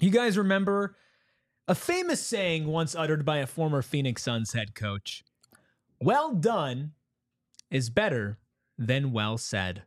You guys remember a famous saying once uttered by a former Phoenix Suns head coach? Well done is better than well said.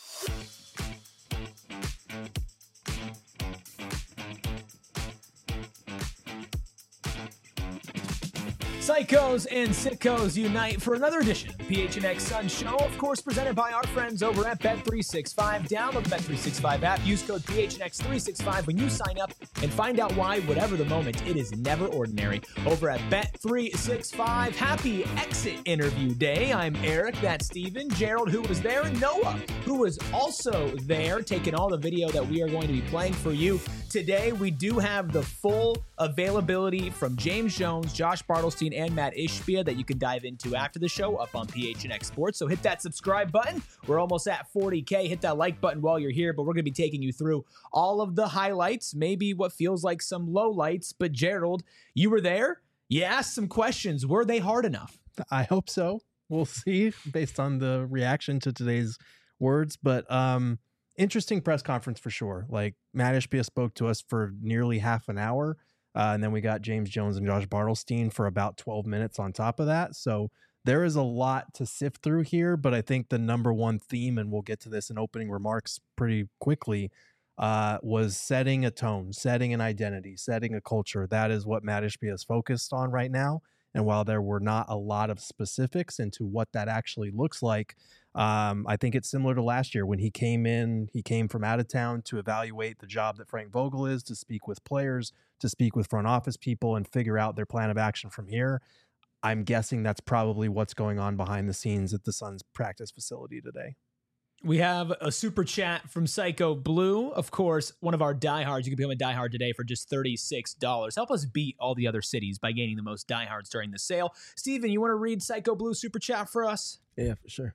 Psychos and sickos unite for another edition of the PHNX Sun Show, of course, presented by our friends over at Bet365. Download the Bet365 app, use code PHNX365 when you sign up, and find out why, whatever the moment, it is never ordinary. Over at Bet365, happy exit interview day. I'm Eric, that's Steven, Gerald, who was there, and Noah, who was also there, taking all the video that we are going to be playing for you today. We do have the full availability from James Jones, Josh Bartelstein, and Matt Ishbia that you can dive into after the show up on PHNX Sports. So hit that subscribe button. We're almost at 40K. Hit that like button while you're here, but we're going to be taking you through all of the highlights, maybe what feels like some lowlights. But Gerald, you were there. You asked some questions. Were they hard enough? I hope so. We'll see based on the reaction to today's words. But interesting press conference for sure. Like, Matt Ishbia spoke to us for nearly half an hour. And then we got James Jones and Josh Bartelstein for about 12 minutes on top of that. So there is a lot to sift through here, but I think the number one theme, and we'll get to this in opening remarks pretty quickly, was setting a tone, setting an identity, setting a culture. That is what Matt Ishbia is focused on right now. And while there were not a lot of specifics into what that actually looks like, I think it's similar to last year when he came in. He came from out of town to evaluate the job that Frank Vogel is, to speak with players, to speak with front office people, and figure out their plan of action from here. I'm guessing that's probably what's going on behind the scenes at the Suns practice facility today. We have a super chat from Psycho Blue. Of course, one of our diehards. You can become a diehard today for just $36. Help us beat all the other cities by gaining the most diehards during the sale. Steven, you want to read Psycho Blue super chat for us? Yeah, for sure.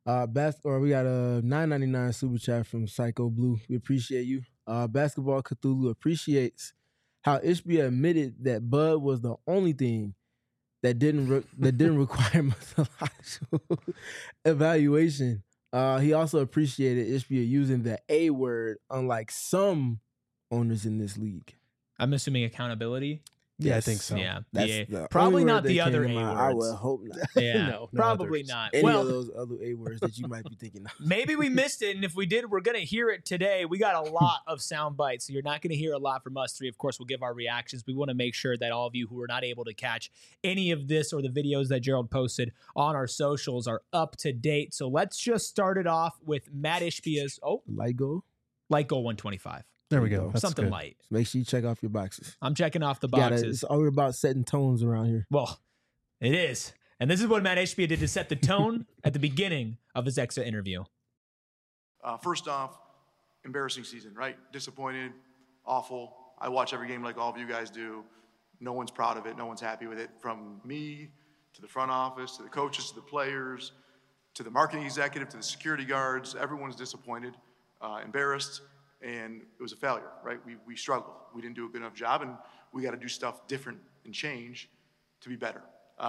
We got a $9.99 super chat from Psycho Blue. We appreciate you. Basketball Cthulhu appreciates how Ishbia admitted that Bud was the only thing that didn't require methodological evaluation. He also appreciated Ishbia using the A word, unlike some owners in this league. I'm assuming accountability. Yeah, yes. I think so. Yeah, That's probably not the other A words. I would hope not. Yeah, no probably others. not. Any of those other A words that you might be thinking of. Maybe we missed it, and if we did, we're going to hear it today. We got a lot of sound bites, so you're not going to hear a lot from us three. Of course, we'll give our reactions. We want to make sure that all of you who are not able to catch any of this or the videos that Gerald posted on our socials are up to date. So let's just start it off with Matt Ishbia's Light goal 125. There we go. That's something good. light. So make sure you check off your boxes. I'm checking off the boxes. It's all about setting tones around here. Well, it is. And this is what Matt Ishbia did to set the tone at the beginning of his exit interview. First off, embarrassing season, right? Disappointed, awful. I watch every game like all of you guys do. No one's proud of it. No one's happy with it. From me to the front office, to the coaches, to the players, to the marketing executive, to the security guards. Everyone's disappointed, embarrassed. And it was a failure, right? We struggled. We didn't do a good enough job, and we got to do stuff different and change to be better.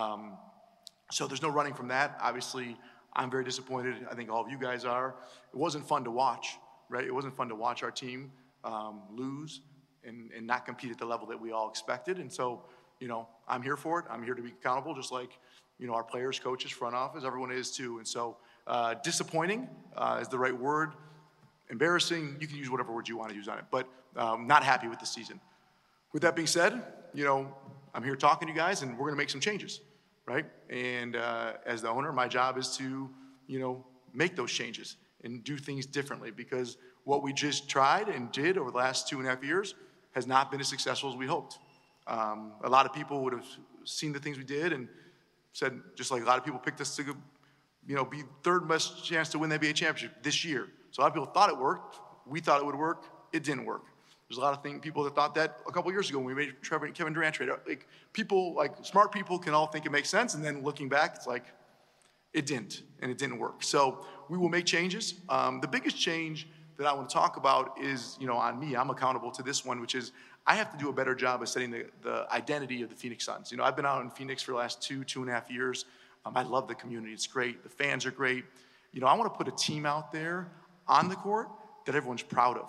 So there's no running from that. Obviously, I'm very disappointed. I think all of you guys are. It wasn't fun to watch, right? It wasn't fun to watch our team lose and not compete at the level that we all expected. And so, I'm here for it. I'm here to be accountable, just like, our players, coaches, front office, everyone is too. And so disappointing is the right word. Embarrassing, you can use whatever word you want to use on it, but not happy with the season. With that being said, I'm here talking to you guys, and we're going to make some changes, right? And as the owner, my job is to, make those changes and do things differently, because what we just tried and did over the last 2.5 years has not been as successful as we hoped. A lot of people would have seen the things we did and said, just like a lot of people picked us to, be third best chance to win the NBA championship this year. So a lot of people thought it worked. We thought it would work. It didn't work. There's a lot of people that thought that a couple years ago when we made Kevin Durant trade. Like, people, smart people can all think it makes sense, and then looking back, it's like, it didn't, and it didn't work. So we will make changes. The biggest change that I want to talk about is, on me. I'm accountable to this one, which is I have to do a better job of setting the identity of the Phoenix Suns. I've been out in Phoenix for the last 2.5 years. I love the community. It's great. The fans are great. I want to put a team out there on the court that everyone's proud of.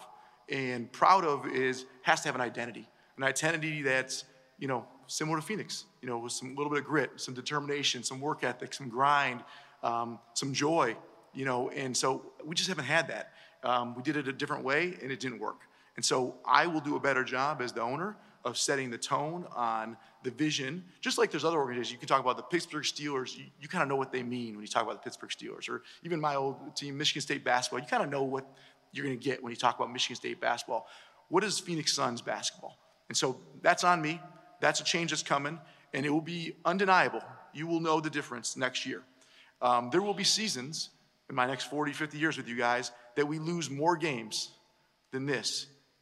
and proud of has to have an identity that's, similar to Phoenix, with some little bit of grit, some determination, some work ethic, some grind, some joy, and so we just haven't had that. We did it a different way and it didn't work. And so I will do a better job as the owner of setting the tone on the vision. Just like there's other organizations, you can talk about the Pittsburgh Steelers, you kind of know what they mean when you talk about the Pittsburgh Steelers, or even my old team, Michigan State basketball. You kind of know what you're going to get when you talk about Michigan State basketball. What is Phoenix Suns basketball? And so that's on me. That's a change that's coming, and it will be undeniable. You will know the difference next year. There will be seasons in my next 40, 50 years with you guys that we lose more games than this,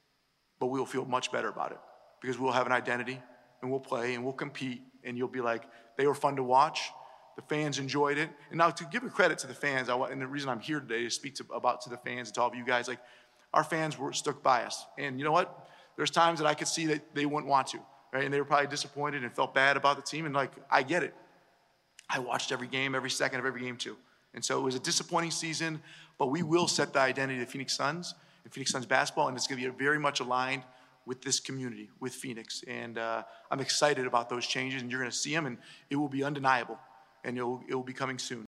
but we'll feel much better about it because we'll have an identity and we'll play and we'll compete, and you'll be like, they were fun to watch. The fans enjoyed it. And now to give a credit to the fans, and the reason I'm here today is to speak to the fans and to all of you guys, like our fans were stuck by us. And you know what? There's times that I could see that they wouldn't want to, right? And they were probably disappointed and felt bad about the team. And like, I get it. I watched every game, every second of every game too. And so it was a disappointing season, but we will set the identity of the Phoenix Suns and Phoenix Suns basketball, and it's going to be very much aligned with this community, with Phoenix. And I'm excited about those changes, and you're going to see them, and it will be undeniable, and it will be coming soon.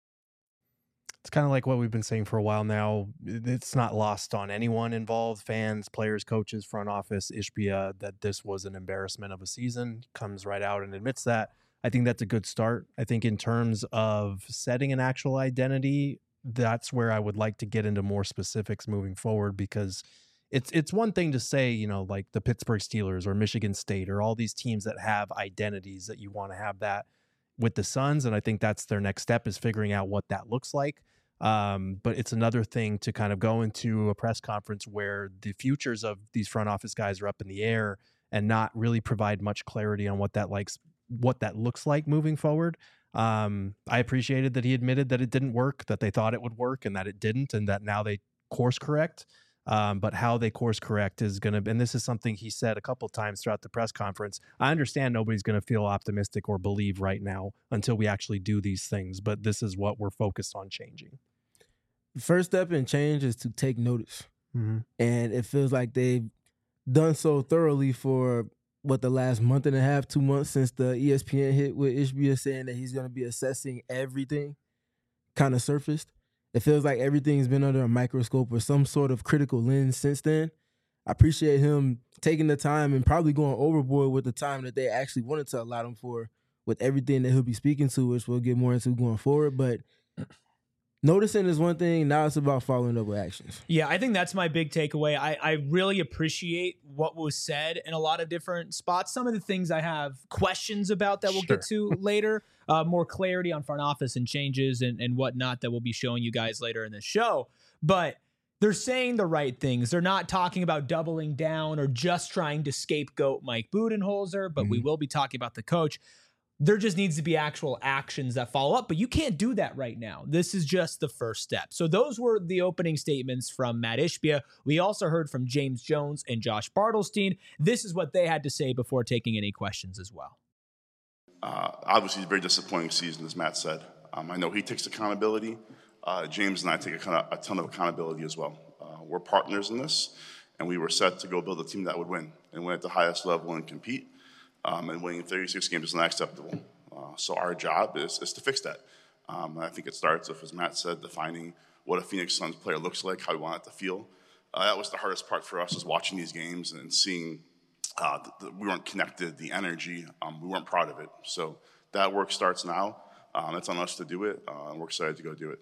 It's kind of like what we've been saying for a while now. It's not lost on anyone involved, fans, players, coaches, front office, Ishbia, that this was an embarrassment of a season. Comes right out and admits that. I think that's a good start. I think in terms of setting an actual identity, that's where I would like to get into more specifics moving forward, because it's one thing to say, like the Pittsburgh Steelers or Michigan State or all these teams that have identities, that you want to have that with the Suns. And I think that's their next step, is figuring out what that looks like. But it's another thing to kind of go into a press conference where the futures of these front office guys are up in the air and not really provide much clarity on what that looks like moving forward. I appreciated that he admitted that it didn't work, that they thought it would work and that it didn't, and that now they course correct. But how they course correct is going to, and this is something he said a couple of times throughout the press conference. I understand nobody's going to feel optimistic or believe right now until we actually do these things, but this is what we're focused on changing. The first step in change is to take notice. Mm-hmm. And it feels like they've done so thoroughly for the last month and a half, 2 months since the ESPN hit with Ishbia saying that he's going to be assessing everything kind of surfaced. It feels like everything's been under a microscope or some sort of critical lens since then. I appreciate him taking the time and probably going overboard with the time that they actually wanted to allow him for, with everything that he'll be speaking to, which we'll get more into going forward. But noticing is one thing. Now it's about following up with actions. Yeah, I think that's my big takeaway. I really appreciate what was said in a lot of different spots. Some of the things I have questions about that we'll get to later. More clarity on front office and changes and whatnot that we'll be showing you guys later in the show. But they're saying the right things. They're not talking about doubling down or just trying to scapegoat Mike Budenholzer, but we will be talking about the coach. There just needs to be actual actions that follow up, but you can't do that right now. This is just the first step. So those were the opening statements from Matt Ishbia. We also heard from James Jones and Josh Bartelstein. This is what they had to say before taking any questions as well. Obviously, it's a very disappointing season, as Matt said. I know he takes accountability. James and I take a ton of accountability as well. We're partners in this, and we were set to go build a team that would win and win at the highest level and compete. And winning 36 games is not acceptable. So our job is to fix that. I think it starts with, as Matt said, defining what a Phoenix Suns player looks like, how we want it to feel. That was the hardest part for us, is watching these games and seeing we weren't connected, the energy, we weren't proud of it. So that work starts now. It's on us to do it, and we're excited to go do it.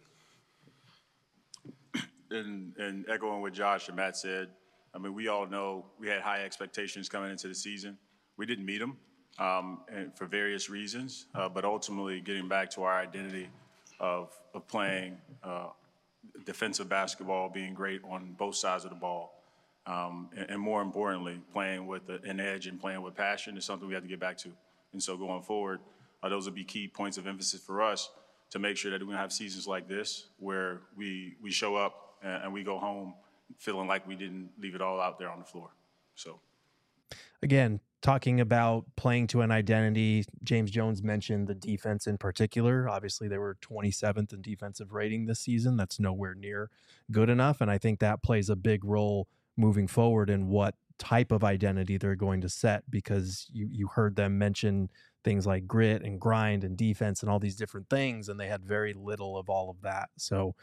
And echoing what Josh and Matt said, I mean, we all know we had high expectations coming into the season. We didn't meet them and for various reasons, but ultimately getting back to our identity of playing defensive basketball, being great on both sides of the ball, and more importantly, playing with an edge and playing with passion is something we have to get back to. And so going forward, those will be key points of emphasis for us to make sure that we're going to have seasons like this where we show up and we go home feeling like we didn't leave it all out there on the floor. So, again, talking about playing to an identity, James Jones mentioned the defense in particular. Obviously, they were 27th in defensive rating this season. That's nowhere near good enough, and I think that plays a big role moving forward and what type of identity they're going to set, because you heard them mention things like grit and grind and defense and all these different things, and they had very little of all of that. So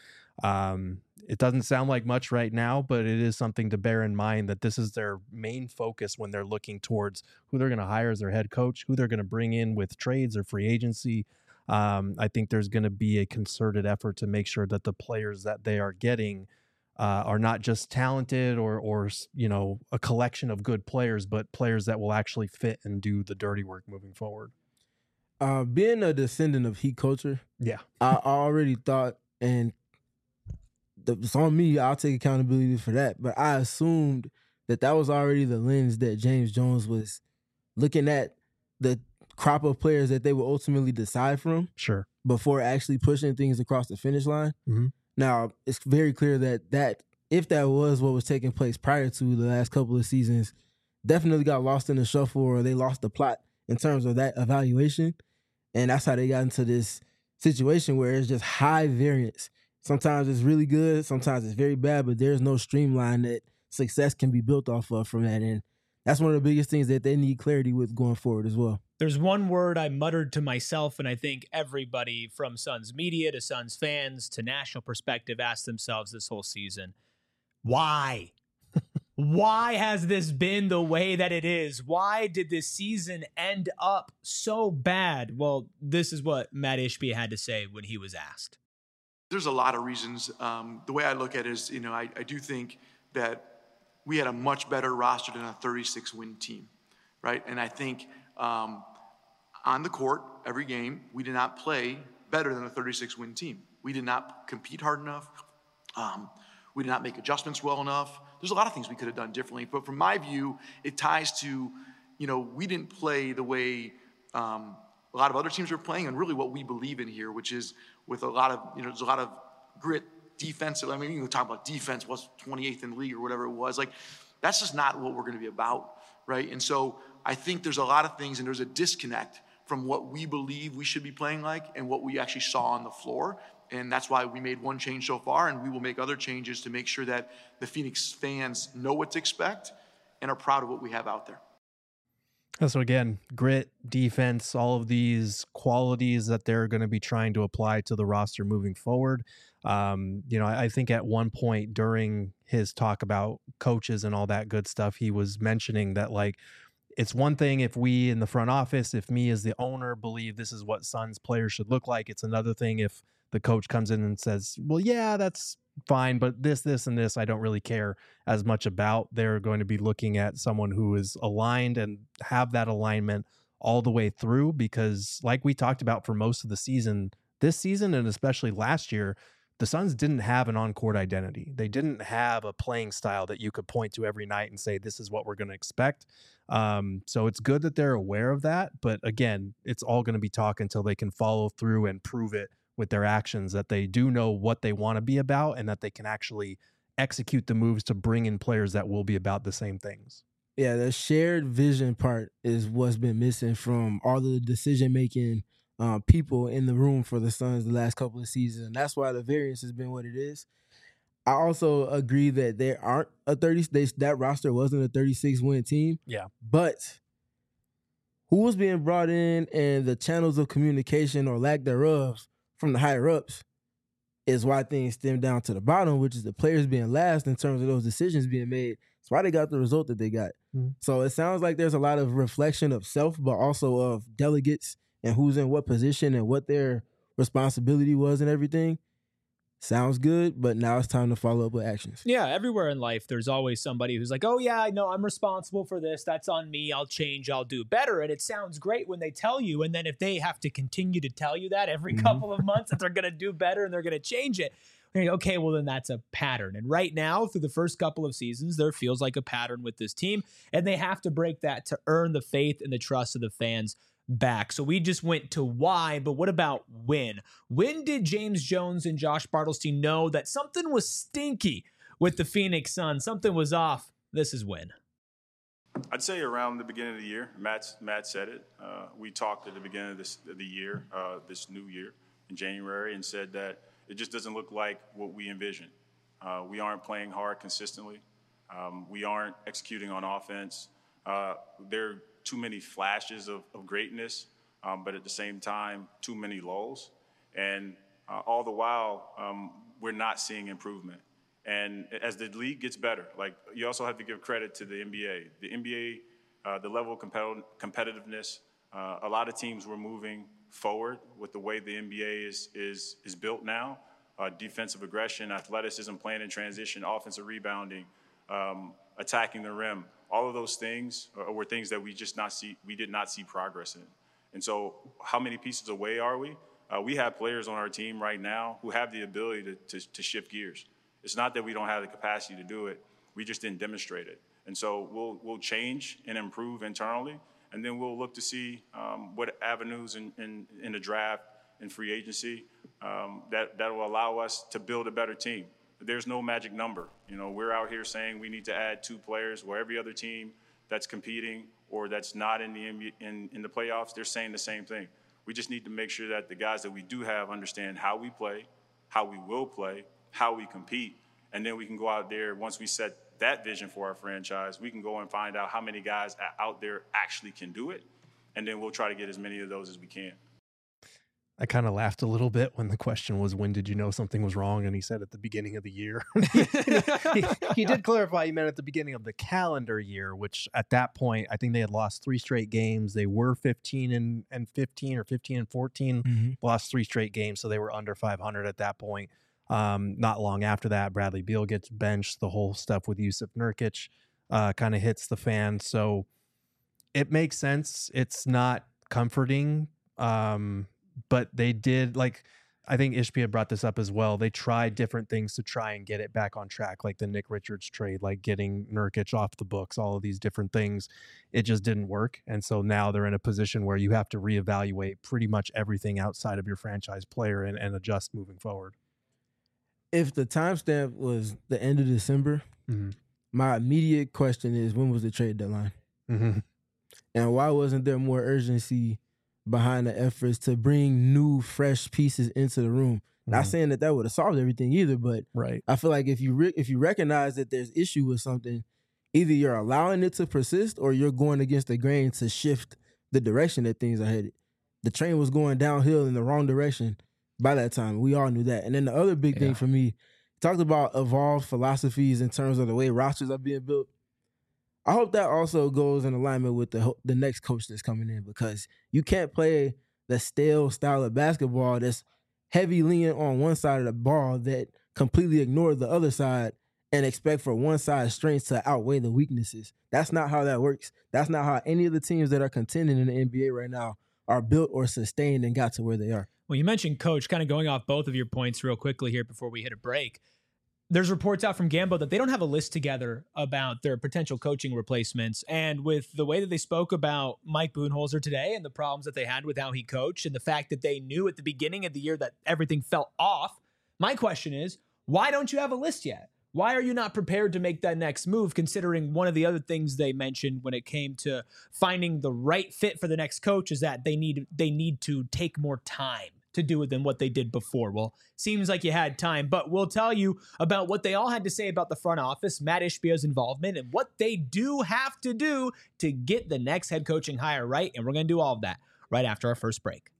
it doesn't sound like much right now, but it is something to bear in mind that this is their main focus when they're looking towards who they're going to hire as their head coach, who they're going to bring in with trades or free agency. I think there's going to be a concerted effort to make sure that the players that they are getting are not just talented or a collection of good players, but players that will actually fit and do the dirty work moving forward. Being a descendant of Heat culture, yeah, I already thought, and it's on me, I'll take accountability for that, but I assumed that was already the lens that James Jones was looking at the crop of players that they would ultimately decide from. Sure. Before actually pushing things across the finish line. Mm-hmm. Now, it's very clear that if that was what was taking place prior to the last couple of seasons, definitely got lost in the shuffle, or they lost the plot in terms of that evaluation. And that's how they got into this situation where it's just high variance. Sometimes it's really good, sometimes it's very bad, but there's no streamline that success can be built off of from that. And that's one of the biggest things that they need clarity with going forward as well. There's one word I muttered to myself, and I think everybody from Suns media to Suns fans to national perspective asked themselves this whole season, why? Why has this been the way that it is? Why did this season end up so bad? Well, this is what Matt Ishbia had to say when he was asked. There's a lot of reasons. The way I look at it is, I do think that we had a much better roster than a 36-win team, right? And I think on the court, every game, we did not play better than a 36-win team. We did not compete hard enough. We did not make adjustments well enough. There's a lot of things we could have done differently. But from my view, it ties to, we didn't play the way a lot of other teams are playing, and really what we believe in here, which is with a lot of, there's a lot of grit, defensive. I mean, you can talk about defense, was 28th in the league or whatever it was. Like, that's just not what we're going to be about, right? And so I think there's a lot of things, and there's a disconnect from what we believe we should be playing like and what we actually saw on the floor. And that's why we made one change so far, and we will make other changes to make sure that the Phoenix fans know what to expect and are proud of what we have out there. So again, grit, defense, all of these qualities that they're going to be trying to apply to the roster moving forward. I think at one point during his talk about coaches and all that good stuff, he was mentioning that, like, it's one thing if we in the front office, if me as the owner believe this is what Suns players should look like. It's another thing if the coach comes in and says, well, yeah, that's fine, but this, and this, I don't really care as much about. They're going to be looking at someone who is aligned and have that alignment all the way through, because like we talked about for most of the season, this season, and especially last year, the Suns didn't have an on-court identity. They didn't have a playing style that you could point to every night and say, this is what we're going to expect. So it's good that they're aware of that. But again, it's all going to be talk until they can follow through and prove it with their actions, that they do know what they want to be about and that they can actually execute the moves to bring in players that will be about the same things. Yeah, the shared vision part is what's been missing from all the decision-making people in the room for the Suns the last couple of seasons. And that's why the variance has been what it is. I also agree that there aren't that roster wasn't a 36-win team. Yeah. But who was being brought in and the channels of communication or lack thereof from the higher-ups is why things stem down to the bottom, which is the players being last in terms of those decisions being made. That's why they got the result that they got. Mm-hmm. So it sounds like there's a lot of reflection of self, but also of delegates and who's in what position and what their responsibility was and everything. Sounds good, but now it's time to follow up with actions. Yeah, everywhere in life, there's always somebody who's like, oh, yeah, I know I'm responsible for this. That's on me. I'll change. I'll do better. And it sounds great when they tell you. And then if they have to continue to tell you that every couple of months that they're going to do better and they're going to change it, you're like, okay, well, then that's a pattern. And right now, through the first couple of seasons, there feels like a pattern with this team. And they have to break that to earn the faith and the trust of the fans back. So we just went to why, but what about when? When did James Jones and Josh Bartelstein know that something was stinky with the Phoenix Suns? Something was off. This is when. I'd say around the beginning of the year. Matt said it. We talked at the beginning of the year, this new year in January, and said that it just doesn't look like what we envisioned. We aren't playing hard consistently. We aren't executing on offense. There are too many flashes of greatness, but at the same time, too many lulls. And all the while, we're not seeing improvement. And as the league gets better, like, you also have to give credit to the NBA. The NBA, the level of competitiveness, a lot of teams were moving forward with the way the NBA is built now. Defensive aggression, athleticism, playing in transition, offensive rebounding, attacking the rim. All of those things were things that we did not see progress in. And so how many pieces away are we? We have players on our team right now who have the ability to shift gears. It's not that we don't have the capacity to do it. We just didn't demonstrate it. And so we'll change and improve internally, and then we'll look to see what avenues in the draft and free agency that will allow us to build a better team. There's no magic number. We're out here saying we need to add 2 players, where every other team that's competing or that's not in the playoffs, they're saying the same thing. We just need to make sure that the guys that we do have understand how we play, how we will play, how we compete, and then we can go out there. Once we set that vision for our franchise, we can go and find out how many guys out there actually can do it, and then we'll try to get as many of those as we can. I kind of laughed a little bit when the question was, when did you know something was wrong? And he said at the beginning of the year. he did clarify he meant at the beginning of the calendar year, which at that point, I think they had lost 3 straight games. They were 15 and 15 or 15 and 14, lost 3 straight games. So they were under 500 at that point. Not long after that, Bradley Beal gets benched. The whole stuff with Jusuf Nurkic kind of hits the fan. So it makes sense. It's not comforting. But they did, like, I think Ishbia brought this up as well. They tried different things to try and get it back on track, like the Nick Richards trade, like getting Nurkic off the books, all of these different things. It just didn't work. And so now they're in a position where you have to reevaluate pretty much everything outside of your franchise player and adjust moving forward. If the timestamp was the end of December, my immediate question is, when was the trade deadline? And why wasn't there more urgency behind the efforts to bring new, fresh pieces into the room? Not saying that would have solved everything either, but I feel like if you recognize that there's issue with something, either you're allowing it to persist or you're going against the grain to shift the direction that things are headed. The train was going downhill in the wrong direction by that time. We all knew that. And then the other big thing for me, talked about evolved philosophies in terms of the way rosters are being built. I hope that also goes in alignment with the next coach that's coming in, because you can't play the stale style of basketball that's heavy leaning on one side of the ball that completely ignores the other side and expect for one side's strengths to outweigh the weaknesses. That's not how that works. That's not how any of the teams that are contending in the NBA right now are built or sustained and got to where they are. Well, you mentioned coach, kind of going off both of your points real quickly here before we hit a break. There's reports out from Gambo that they don't have a list together about their potential coaching replacements. And with the way that they spoke about Mike Budenholzer today and the problems that they had with how he coached and the fact that they knew at the beginning of the year that everything fell off, my question is, why don't you have a list yet? Why are you not prepared to make that next move, considering one of the other things they mentioned when it came to finding the right fit for the next coach is that they need to take more time to do it than what they did before. Well, seems like you had time, but we'll tell you about what they all had to say about the front office, Matt Ishbia's involvement, and what they do have to do to get the next head coaching hire right. And we're going to do all of that right after our first break.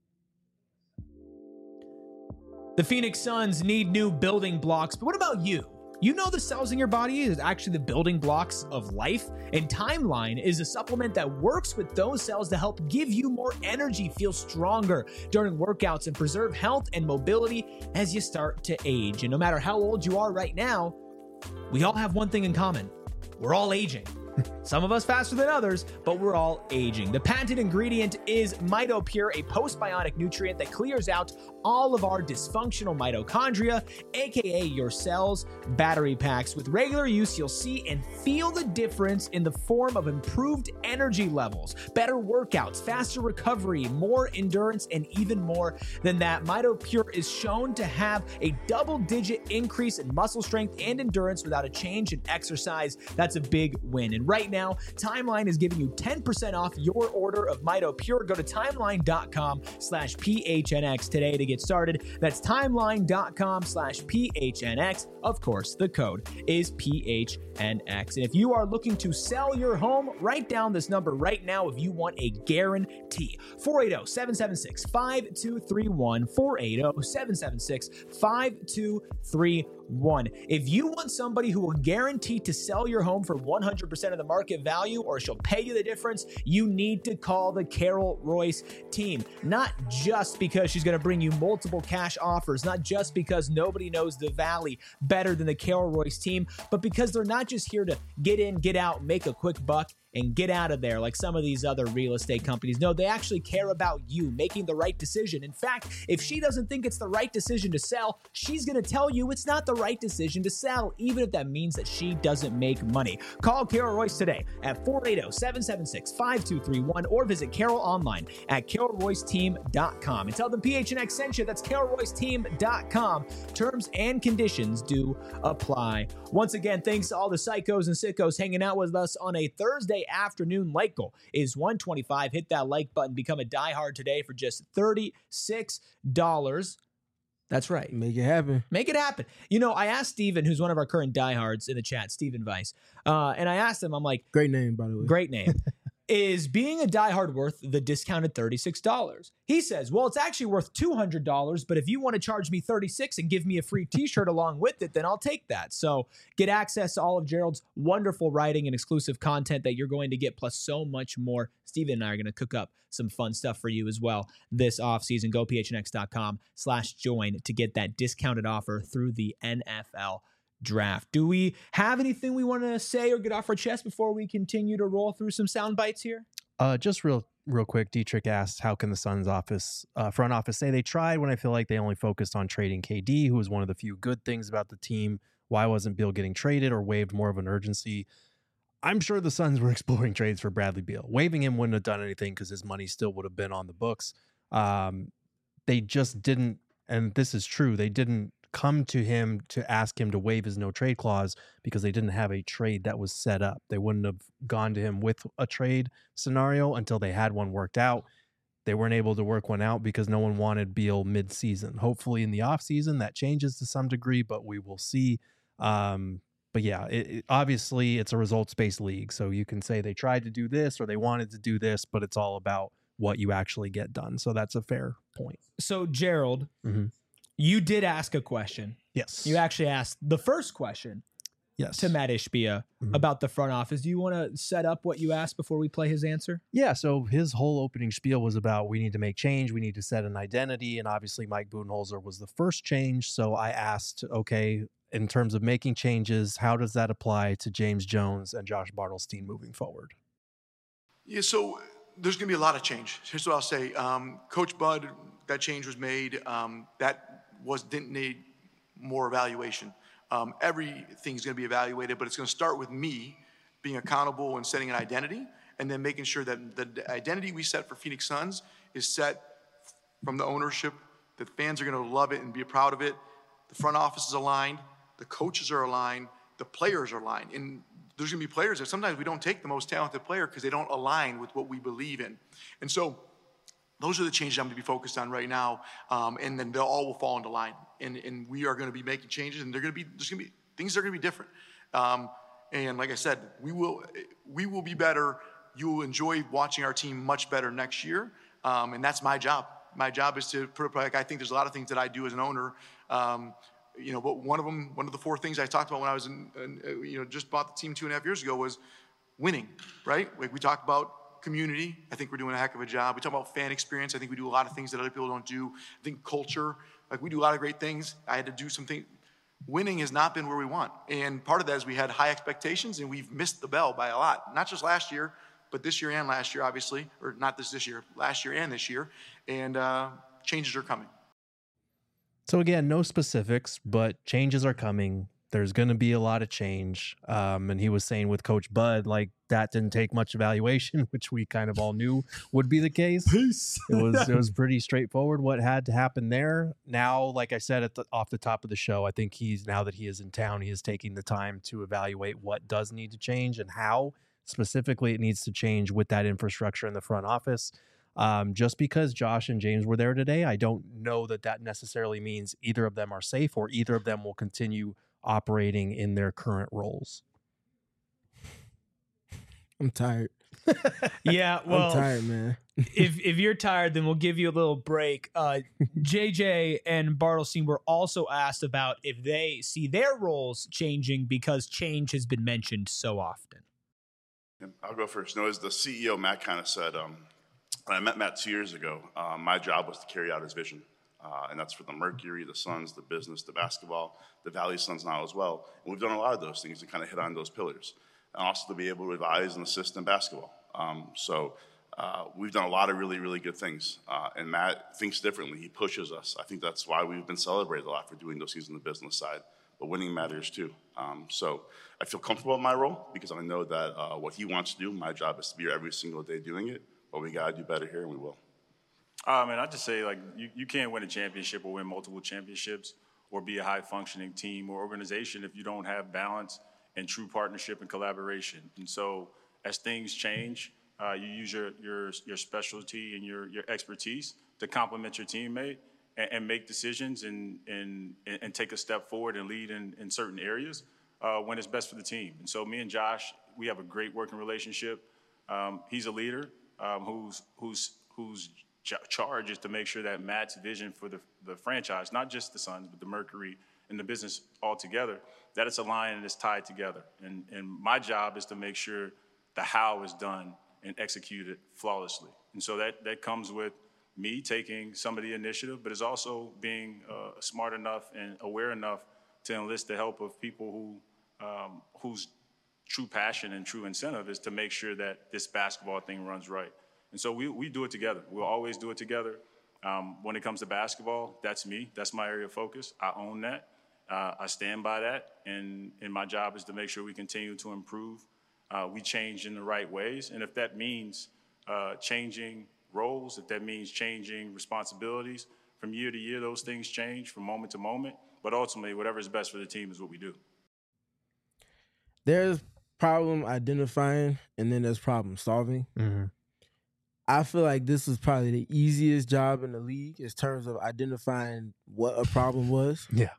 The Phoenix Suns need new building blocks, but what about you? You know the cells in your body is actually the building blocks of life, and Timeline is a supplement that works with those cells to help give you more energy, feel stronger during workouts, and preserve health and mobility as you start to age. And no matter how old you are right now, we all have one thing in common. We're all aging. Some of us faster than others, but we're all aging. The patented ingredient is MitoPure, a postbiotic nutrient that clears out all of our dysfunctional mitochondria, aka your cells' battery packs. With regular use, you'll see and feel the difference in the form of improved energy levels, better workouts, faster recovery, more endurance, and even more than that. MitoPure is shown to have a double-digit increase in muscle strength and endurance without a change in exercise. That's a big win. And right now. Timeline is giving you 10% off your order of Mito Pure. Go to timeline.com/PHNX today to get started. That's timeline.com/PHNX. Of course, the code is PHNX. And if you are looking to sell your home, write down this number right now if you want a guarantee. 480-776-5231. 480-776-5231. If you want somebody who will guarantee to sell your home for 100% of the market value, or she'll pay you the difference, you need to call the Carol Royce team. Not just because she's going to bring you multiple cash offers, not just because nobody knows the Valley better than the Carol Royce team, but because they're not just here to get in, get out, make a quick buck, and get out of there like some of these other real estate companies. No, they actually care about you making the right decision. In fact, if she doesn't think it's the right decision to sell, she's going to tell you it's not the right decision to sell, even if that means that she doesn't make money. Call Carol Royce today at 480-776-5231 or visit Carol online at carolroyceteam.com and tell them PHNX sent you. That's carolroyceteam.com. Terms and conditions do apply. Once again, thanks to all the psychos and sickos hanging out with us on a Thursday afternoon. Like goal is 125. Hit that like button. Become a diehard today for just $36. That's right. Make it happen. Make it happen. You know, I asked Steven, who's one of our current diehards in the chat, Steven Weiss, and I asked him, I'm like, great name, by the way. Great name. Is being a diehard worth the discounted $36? He says, well, it's actually worth $200, but if you want to charge me $36 and give me a free t-shirt along with it, then I'll take that. So get access to all of Gerald's wonderful writing and exclusive content that you're going to get, plus so much more. Steven and I are going to cook up some fun stuff for you as well this offseason. Go phnx.com/join to get that discounted offer through the NFL draft. Do we have anything we want to say or get off our chest before we continue to roll through some sound bites here? Just real quick, Dietrich asked, how can the Suns front office say they tried when I feel like they only focused on trading KD, who was one of the few good things about the team? Why wasn't Beal getting traded or waived more of an urgency? I'm sure the Suns were exploring trades for Bradley Beal. Waiving him wouldn't have done anything because his money still would have been on the books. They just didn't, and this is true, they didn't come to him to ask him to waive his no trade clause because they didn't have a trade that was set up. They wouldn't have gone to him with a trade scenario until they had one worked out. They weren't able to work one out because no one wanted Beal mid-season. Hopefully in the offseason that changes to some degree, but we will see. But yeah, obviously it's a results-based league. So you can say they tried to do this or they wanted to do this, but it's all about what you actually get done. So that's a fair point. So Gerald, you did ask a question. Yes. You actually asked the first question to Matt Ishbia about the front office. Do you want to set up what you asked before we play his answer? Yeah, so his whole opening spiel was about we need to make change, we need to set an identity, and obviously Mike Budenholzer was the first change. So I asked, okay, in terms of making changes, how does that apply to James Jones and Josh Bartelstein moving forward? Yeah, so there's going to be a lot of change. Here's what I'll say. Coach Bud, that change was made. Didn't need more evaluation. Everything's going to be evaluated, but it's going to start with me being accountable and setting an identity, and then making sure that the identity we set for Phoenix Suns is set from the ownership, that fans are going to love it and be proud of it. The front office is aligned, the coaches are aligned, the players are aligned. And there's going to be players that sometimes we don't take the most talented player because they don't align with what we believe in. And so those are the changes I'm going to be focused on right now, and then they'll all will fall into line. And we are going to be making changes, and there's going to be things that are going to be different. And like I said, we will be better. You will enjoy watching our team much better next year, and that's my job. My job is to put like I think there's a lot of things that I do as an owner. But one of the four things I talked about when I was just bought the team 2.5 years ago was winning. Right? Like we talked about community. I think we're doing a heck of a job. We talk about fan experience. I think we do a lot of things that other people don't do. I think culture, like we do a lot of great things. I had to do something. Winning has not been where we want. And part of that is we had high expectations and we've missed the bell by a lot. Not just last year, but this year and last year, obviously. Or not this year, last year and this year. And changes are coming. So again, no specifics, but changes are coming. There's going to be a lot of change. And he was saying with Coach Bud, like that didn't take much evaluation, which we kind of all knew would be the case. Peace. It was pretty straightforward what had to happen there. Now, like I said off the top of the show, I think now that he is in town, he is taking the time to evaluate what does need to change and how. specifically it needs to change with that infrastructure in the front office. Just because Josh and James were there today, I don't know that necessarily means either of them are safe or either of them will continue operating in their current roles. I'm tired. Yeah, well, I'm tired, man. if you're tired, then we'll give you a little break. JJ and Bartelstein were also asked about if they see their roles changing because change has been mentioned so often. I'll go first. No, as the CEO, Matt kind of said, when I met Matt 2 years ago, my job was to carry out his vision. And that's for the Mercury, the Suns, the business, the basketball, the Valley Suns now as well. And we've done a lot of those things to kind of hit on those pillars. And also to be able to advise and assist in basketball. So we've done a lot of really, really good things. And Matt thinks differently. He pushes us. I think that's why we've been celebrated a lot for doing those things on the business side. But winning matters too. So I feel comfortable in my role because I know that what he wants to do, my job is to be here every single day doing it. But we got to do better here, and we will. And I just say, like, you can't win a championship or win multiple championships or be a high-functioning team or organization if you don't have balance and true partnership and collaboration. And so as things change, you use your specialty and your expertise to complement your teammate and make decisions and take a step forward and lead in certain areas when it's best for the team. And so me and Josh, we have a great working relationship. He's a leader whose charge is to make sure that Matt's vision for the franchise, not just the Suns, but the Mercury and the business altogether, that it's aligned and it's tied together. And my job is to make sure the how is done and executed flawlessly. And so that comes with me taking some of the initiative, but it's also being smart enough and aware enough to enlist the help of people whose true passion and true incentive is to make sure that this basketball thing runs right. And so we do it together. We'll always do it together. When it comes to basketball, that's me. That's my area of focus. I own that. I stand by that. And my job is to make sure we continue to improve. We change in the right ways. And if that means changing roles, if that means changing responsibilities, from year to year, those things change from moment to moment. But ultimately, whatever is best for the team is what we do. There's problem identifying, and then there's problem solving. Mm-hmm. I feel like this is probably the easiest job in the league in terms of identifying what a problem was. Yeah.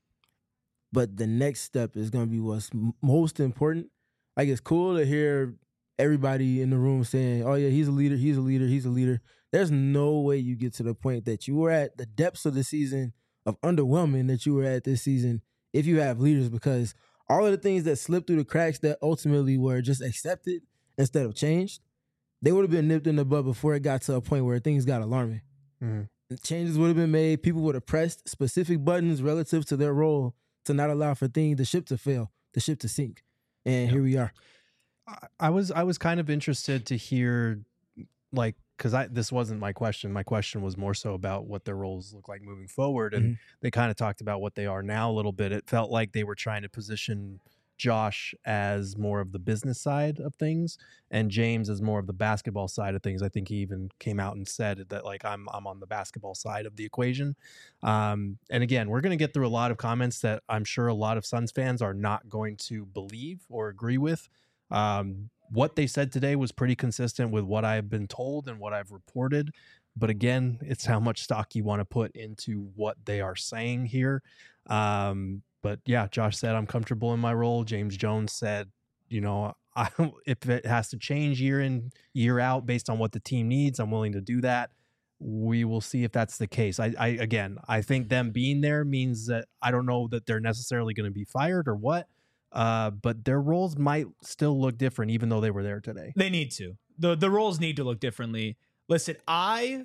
But the next step is going to be what's most important. Like, it's cool to hear everybody in the room saying, oh, yeah, he's a leader, he's a leader, he's a leader. There's no way you get to the point that you were at the depths of the season of underwhelming that you were at this season if you have leaders, because all of the things that slipped through the cracks that ultimately were just accepted instead of changed, they would have been nipped in the bud before it got to a point where things got alarming. Mm-hmm. Changes would have been made. People would have pressed specific buttons relative to their role to not allow for the ship to fail, the ship to sink. And here we are. I was kind of interested to hear, like, because this wasn't my question. My question was more so about what their roles look like moving forward. And they kind of talked about what they are now a little bit. It felt like they were trying to position Josh as more of the business side of things and James as more of the basketball side of things. I think he even came out and said that, like, I'm on the basketball side of the equation. And again, we're going to get through a lot of comments that I'm sure a lot of Suns fans are not going to believe or agree with. What they said today was pretty consistent with what I've been told and what I've reported. But again, it's how much stock you want to put into what they are saying here. But yeah, Josh said, I'm comfortable in my role. James Jones said, if it has to change year in, year out based on what the team needs, I'm willing to do that. We will see if that's the case. I think them being there means that I don't know that they're necessarily going to be fired or what, but their roles might still look different even though they were there today. They need to. The roles need to look differently. Listen, I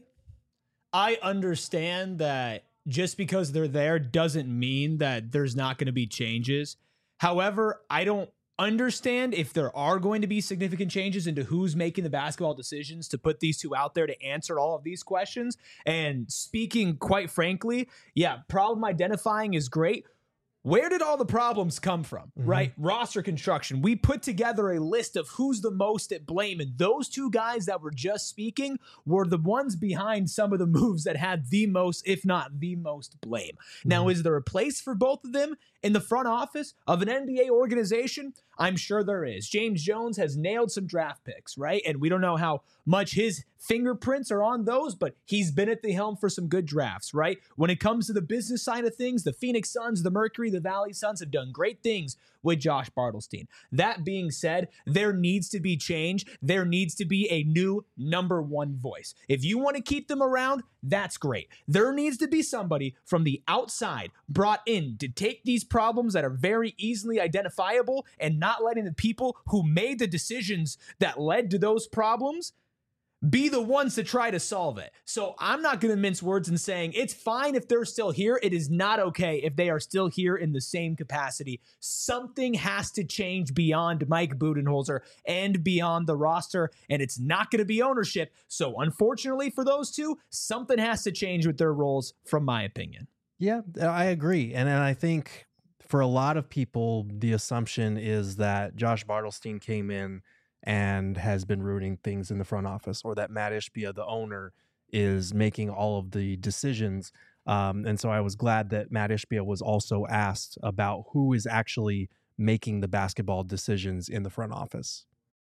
understand that just because they're there doesn't mean that there's not going to be changes. However, I don't understand if there are going to be significant changes into who's making the basketball decisions to put these two out there to answer all of these questions. And speaking quite frankly, yeah, problem identifying is great. where did all the problems come from, right? Roster construction. We put together a list of who's the most at blame, and those two guys that were just speaking were the ones behind some of the moves that had the most, if not the most, blame. Now, is there a place for both of them in the front office of an NBA organization? I'm sure there is. James Jones has nailed some draft picks, right? And we don't know how much his fingerprints are on those, but he's been at the helm for some good drafts, right? When it comes to the business side of things, the Phoenix Suns, the Mercury, the Valley Suns have done great things with Josh Bartelstein. That being said, there needs to be change. There needs to be a new number one voice. If you want to keep them around, that's great. There needs to be somebody from the outside brought in to take these problems that are very easily identifiable and not letting the people who made the decisions that led to those problems be the ones to try to solve it. So I'm not going to mince words in saying it's fine if they're still here. It is not okay if they are still here in the same capacity. Something has to change beyond Mike Budenholzer and beyond the roster, and it's not going to be ownership. So unfortunately for those two, something has to change with their roles, from my opinion. Yeah, I agree. And I think for a lot of people, the assumption is that Josh Bartelstein came in and has been ruining things in the front office, or that Matt Ishbia, the owner, is making all of the decisions. And so I was glad that Matt Ishbia was also asked about who is actually making the basketball decisions in the front office.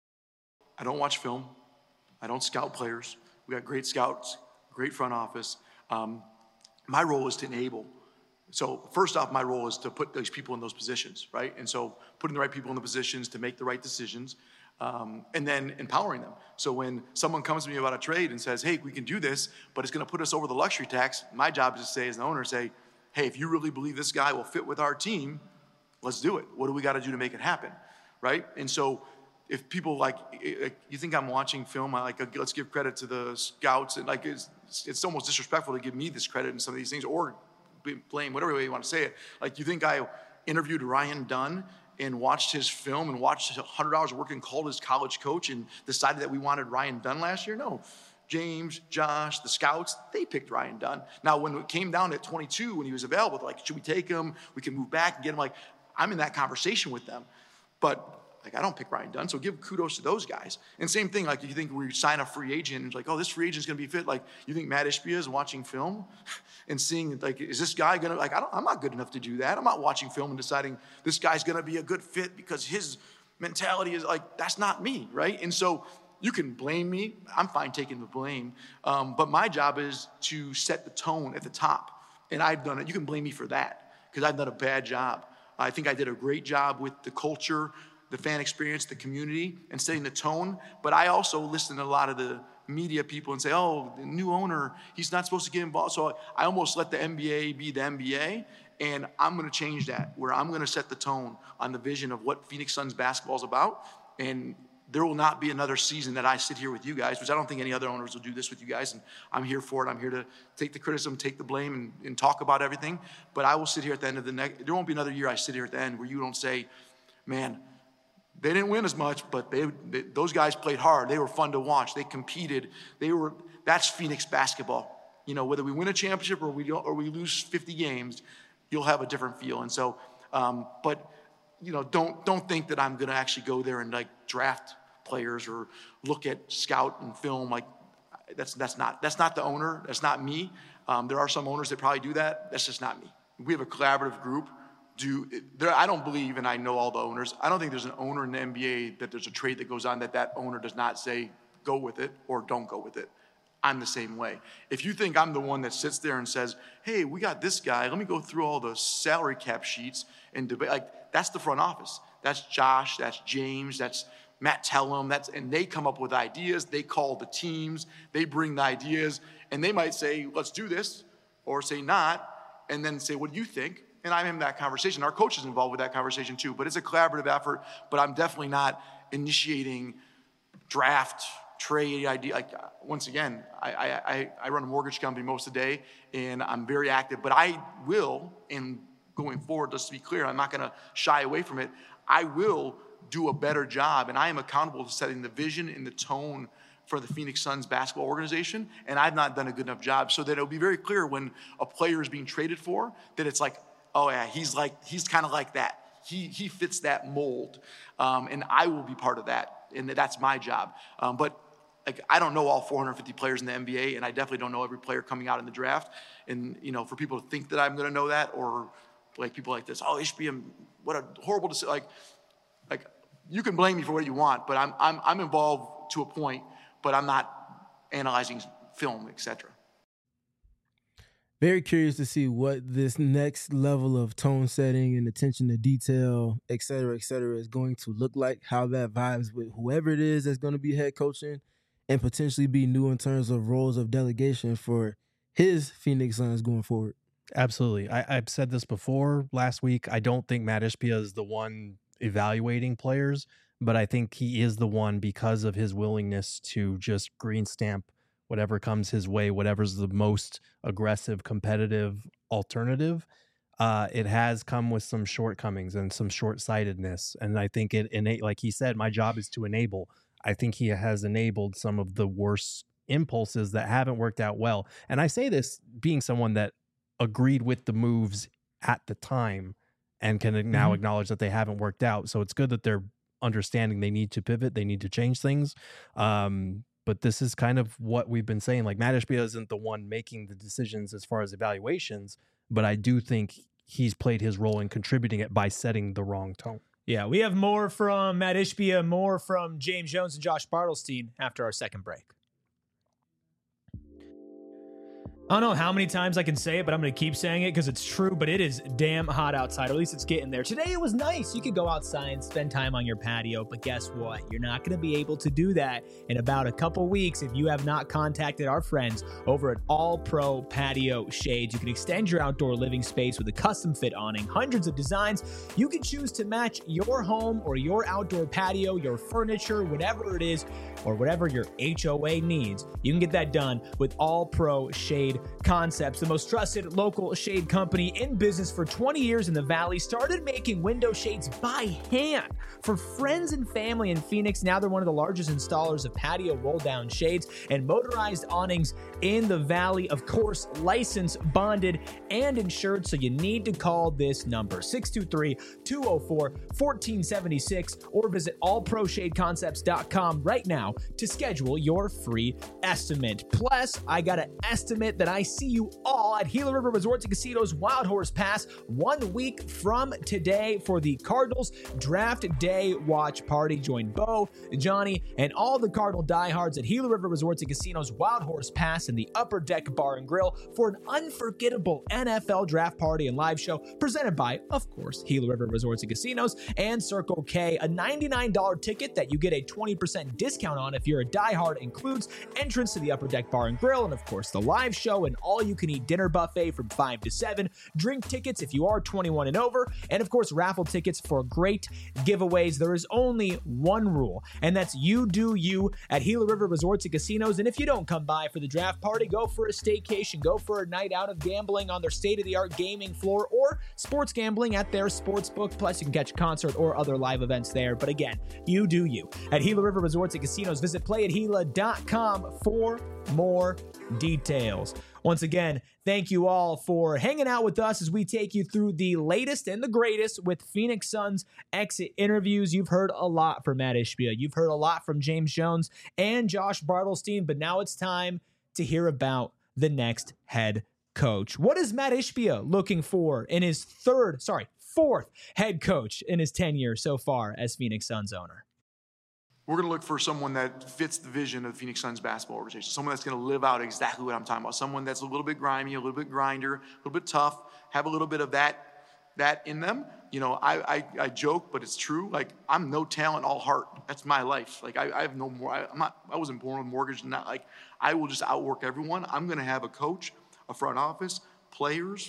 I don't watch film. I don't scout players. We got great scouts, great front office. My role is to enable. So first off, my role is to put those people in those positions, right? And so putting the right people in the positions to make the right decisions. And then empowering them. So when someone comes to me about a trade and says, hey, we can do this, but it's going to put us over the luxury tax, my job is to say, as an owner, say, hey, if you really believe this guy will fit with our team, let's do it. What do we got to do to make it happen, right? And so if people you think I'm watching film, let's give credit to the scouts, and it's almost disrespectful to give me this credit in some of these things, or blame, whatever way you want to say it. Like, you think I interviewed Ryan Dunn and watched his film and watched 100 hours of work and called his college coach and decided that we wanted Ryan Dunn last year? No. James, Josh, the scouts, they picked Ryan Dunn. Now, when it came down at 22, when he was available, should we take him? We can move back and get him. I'm in that conversation with them. But I don't pick Ryan Dunn, so give kudos to those guys. And same thing, you think we sign a free agent and it's this free agent's going to be fit. You think Matt Ishbia is watching film and seeing, is this guy going to, I'm not good enough to do that. I'm not watching film and deciding this guy's going to be a good fit because his mentality is that's not me, right? And so you can blame me. I'm fine taking the blame. But my job is to set the tone at the top. And I've done it. You can blame me for that because I've done a bad job. I think I did a great job with the culture, the fan experience, the community, and setting the tone. But I also listen to a lot of the media people and say, oh, the new owner, he's not supposed to get involved. So I almost let the NBA be the NBA, and I'm going to change that, where I'm going to set the tone on the vision of what Phoenix Suns basketball is about. And there will not be another season that I sit here with you guys, which I don't think any other owners will do this with you guys. And I'm here for it. I'm here to take the criticism, take the blame, and talk about everything. But I will sit here at the end of the next, there won't be another year I sit here at the end where you don't say, man, they didn't win as much, but those guys played hard. They were fun to watch. They competed. That's Phoenix basketball. Whether we win a championship or we lose 50 games, you'll have a different feel. And so, don't think that I'm going to actually go there and draft players or look at scout and film. That's not the owner. That's not me. There are some owners that probably do that. That's just not me. We have a collaborative group. I don't believe, and I know all the owners, I don't think there's an owner in the NBA that there's a trade that goes on that owner does not say go with it or don't go with it. I'm the same way. If you think I'm the one that sits there and says, hey, we got this guy, let me go through all the salary cap sheets and debate, that's the front office. That's Josh, that's James, that's Matt Tellem, and they come up with ideas, they call the teams, they bring the ideas, and they might say, let's do this, or say not, and then say, what do you think? And I'm in that conversation. Our coach is involved with that conversation too, but it's a collaborative effort, but I'm definitely not initiating draft, trade idea. Once again, I run a mortgage company most of the day, and I'm very active, but I will, and going forward, just to be clear, I'm not gonna shy away from it. I will do a better job, and I am accountable to setting the vision and the tone for the Phoenix Suns basketball organization, and I've not done a good enough job so that it'll be very clear when a player is being traded for, that it's oh yeah, he's kind of like that. He fits that mold, and I will be part of that, and that's my job. But like, I don't know all 450 players in the NBA, and I definitely don't know every player coming out in the draft. And for people to think that I'm going to know that, or like people like this, oh, Ishbia, what a horrible decision. Like you can blame me for what you want, but I'm involved to a point, but I'm not analyzing film, etc. Very curious to see what this next level of tone setting and attention to detail, et cetera, is going to look like, how that vibes with whoever it is that's going to be head coaching, and potentially be new in terms of roles of delegation for his Phoenix Suns going forward. Absolutely. I've said this before last week. I don't think Matt Ishbia is the one evaluating players, but I think he is the one because of his willingness to just green stamp whatever comes his way, whatever's the most aggressive, competitive alternative. It has come with some shortcomings and some short-sightedness. And I think like he said, my job is to enable. I think he has enabled some of the worst impulses that haven't worked out well. And I say this being someone that agreed with the moves at the time and can now acknowledge that they haven't worked out. So it's good that they're understanding they need to pivot, they need to change things. But this is kind of what we've been saying. Like, Matt Ishbia isn't the one making the decisions as far as evaluations, but I do think he's played his role in contributing it by setting the wrong tone. Yeah, we have more from Matt Ishbia, more from James Jones and Josh Bartelstein after our second break. I don't know how many times I can say it, but I'm going to keep saying it because it's true, but it is damn hot outside, or at least it's getting there. Today it was nice. You could go outside and spend time on your patio, but guess what? You're not going to be able to do that in about a couple weeks if you have not contacted our friends over at All Pro Patio Shades. You can extend your outdoor living space with a custom fit awning, hundreds of designs. You can choose to match your home or your outdoor patio, your furniture, whatever it is, or whatever your HOA needs. You can get that done with All Pro Shade Concepts, the most trusted local shade company in business for 20 years in the Valley. Started making window shades by hand for friends and family in Phoenix. Now they're one of the largest installers of patio roll-down shades and motorized awnings in the Valley. Of course, licensed, bonded, and insured, so you need to call this number, 623-204-1476, or visit allproshadeconcepts.com right now to schedule your free estimate. Plus, I got an estimate that I see you all at Gila River Resorts and Casinos Wild Horse Pass 1 week from today for the Cardinals Draft Day Watch Party. Join Bo, Johnny, and all the Cardinal diehards at Gila River Resorts and Casinos Wild Horse Pass in the Upper Deck Bar and Grill for an unforgettable NFL draft party and live show presented by, of course, Gila River Resorts and Casinos and Circle K. A $99 ticket that you get a 20% discount on if you're a diehard includes entrance to the Upper Deck Bar and Grill and, of course, the live show and all-you-can-eat dinner buffet from 5 to 7, drink tickets if you are 21 and over, and, of course, raffle tickets for great giveaways. There is only one rule, and that's you do you at Gila River Resorts and Casinos. And if you don't come by for the draft party, go for a staycation, go for a night out of gambling on their state-of-the-art gaming floor or sports gambling at their sports book. Plus, you can catch a concert or other live events there. But again, you do you at Gila River Resorts and Casinos. Visit playatgila.com for more details. Once again, thank you all for hanging out with us as we take you through the latest and the greatest with Phoenix Suns exit interviews. You've heard a lot from Matt Ishbia. You've heard a lot from James Jones and Josh Bartelstein, but now it's time to hear about the next head coach. What is Matt Ishbia looking for in his fourth head coach in his tenure so far as Phoenix Suns owner? We're going to look for someone that fits the vision of the Phoenix Suns basketball organization, someone that's going to live out exactly what I'm talking about, someone that's a little bit grimy, a little bit grinder, a little bit tough, have a little bit of that in them. You know, I joke, but it's true. Like, I'm no talent, all heart. That's my life. Like, I have no more. I wasn't born with a mortgage. Not like I will just outwork everyone. I'm going to have a coach, a front office, players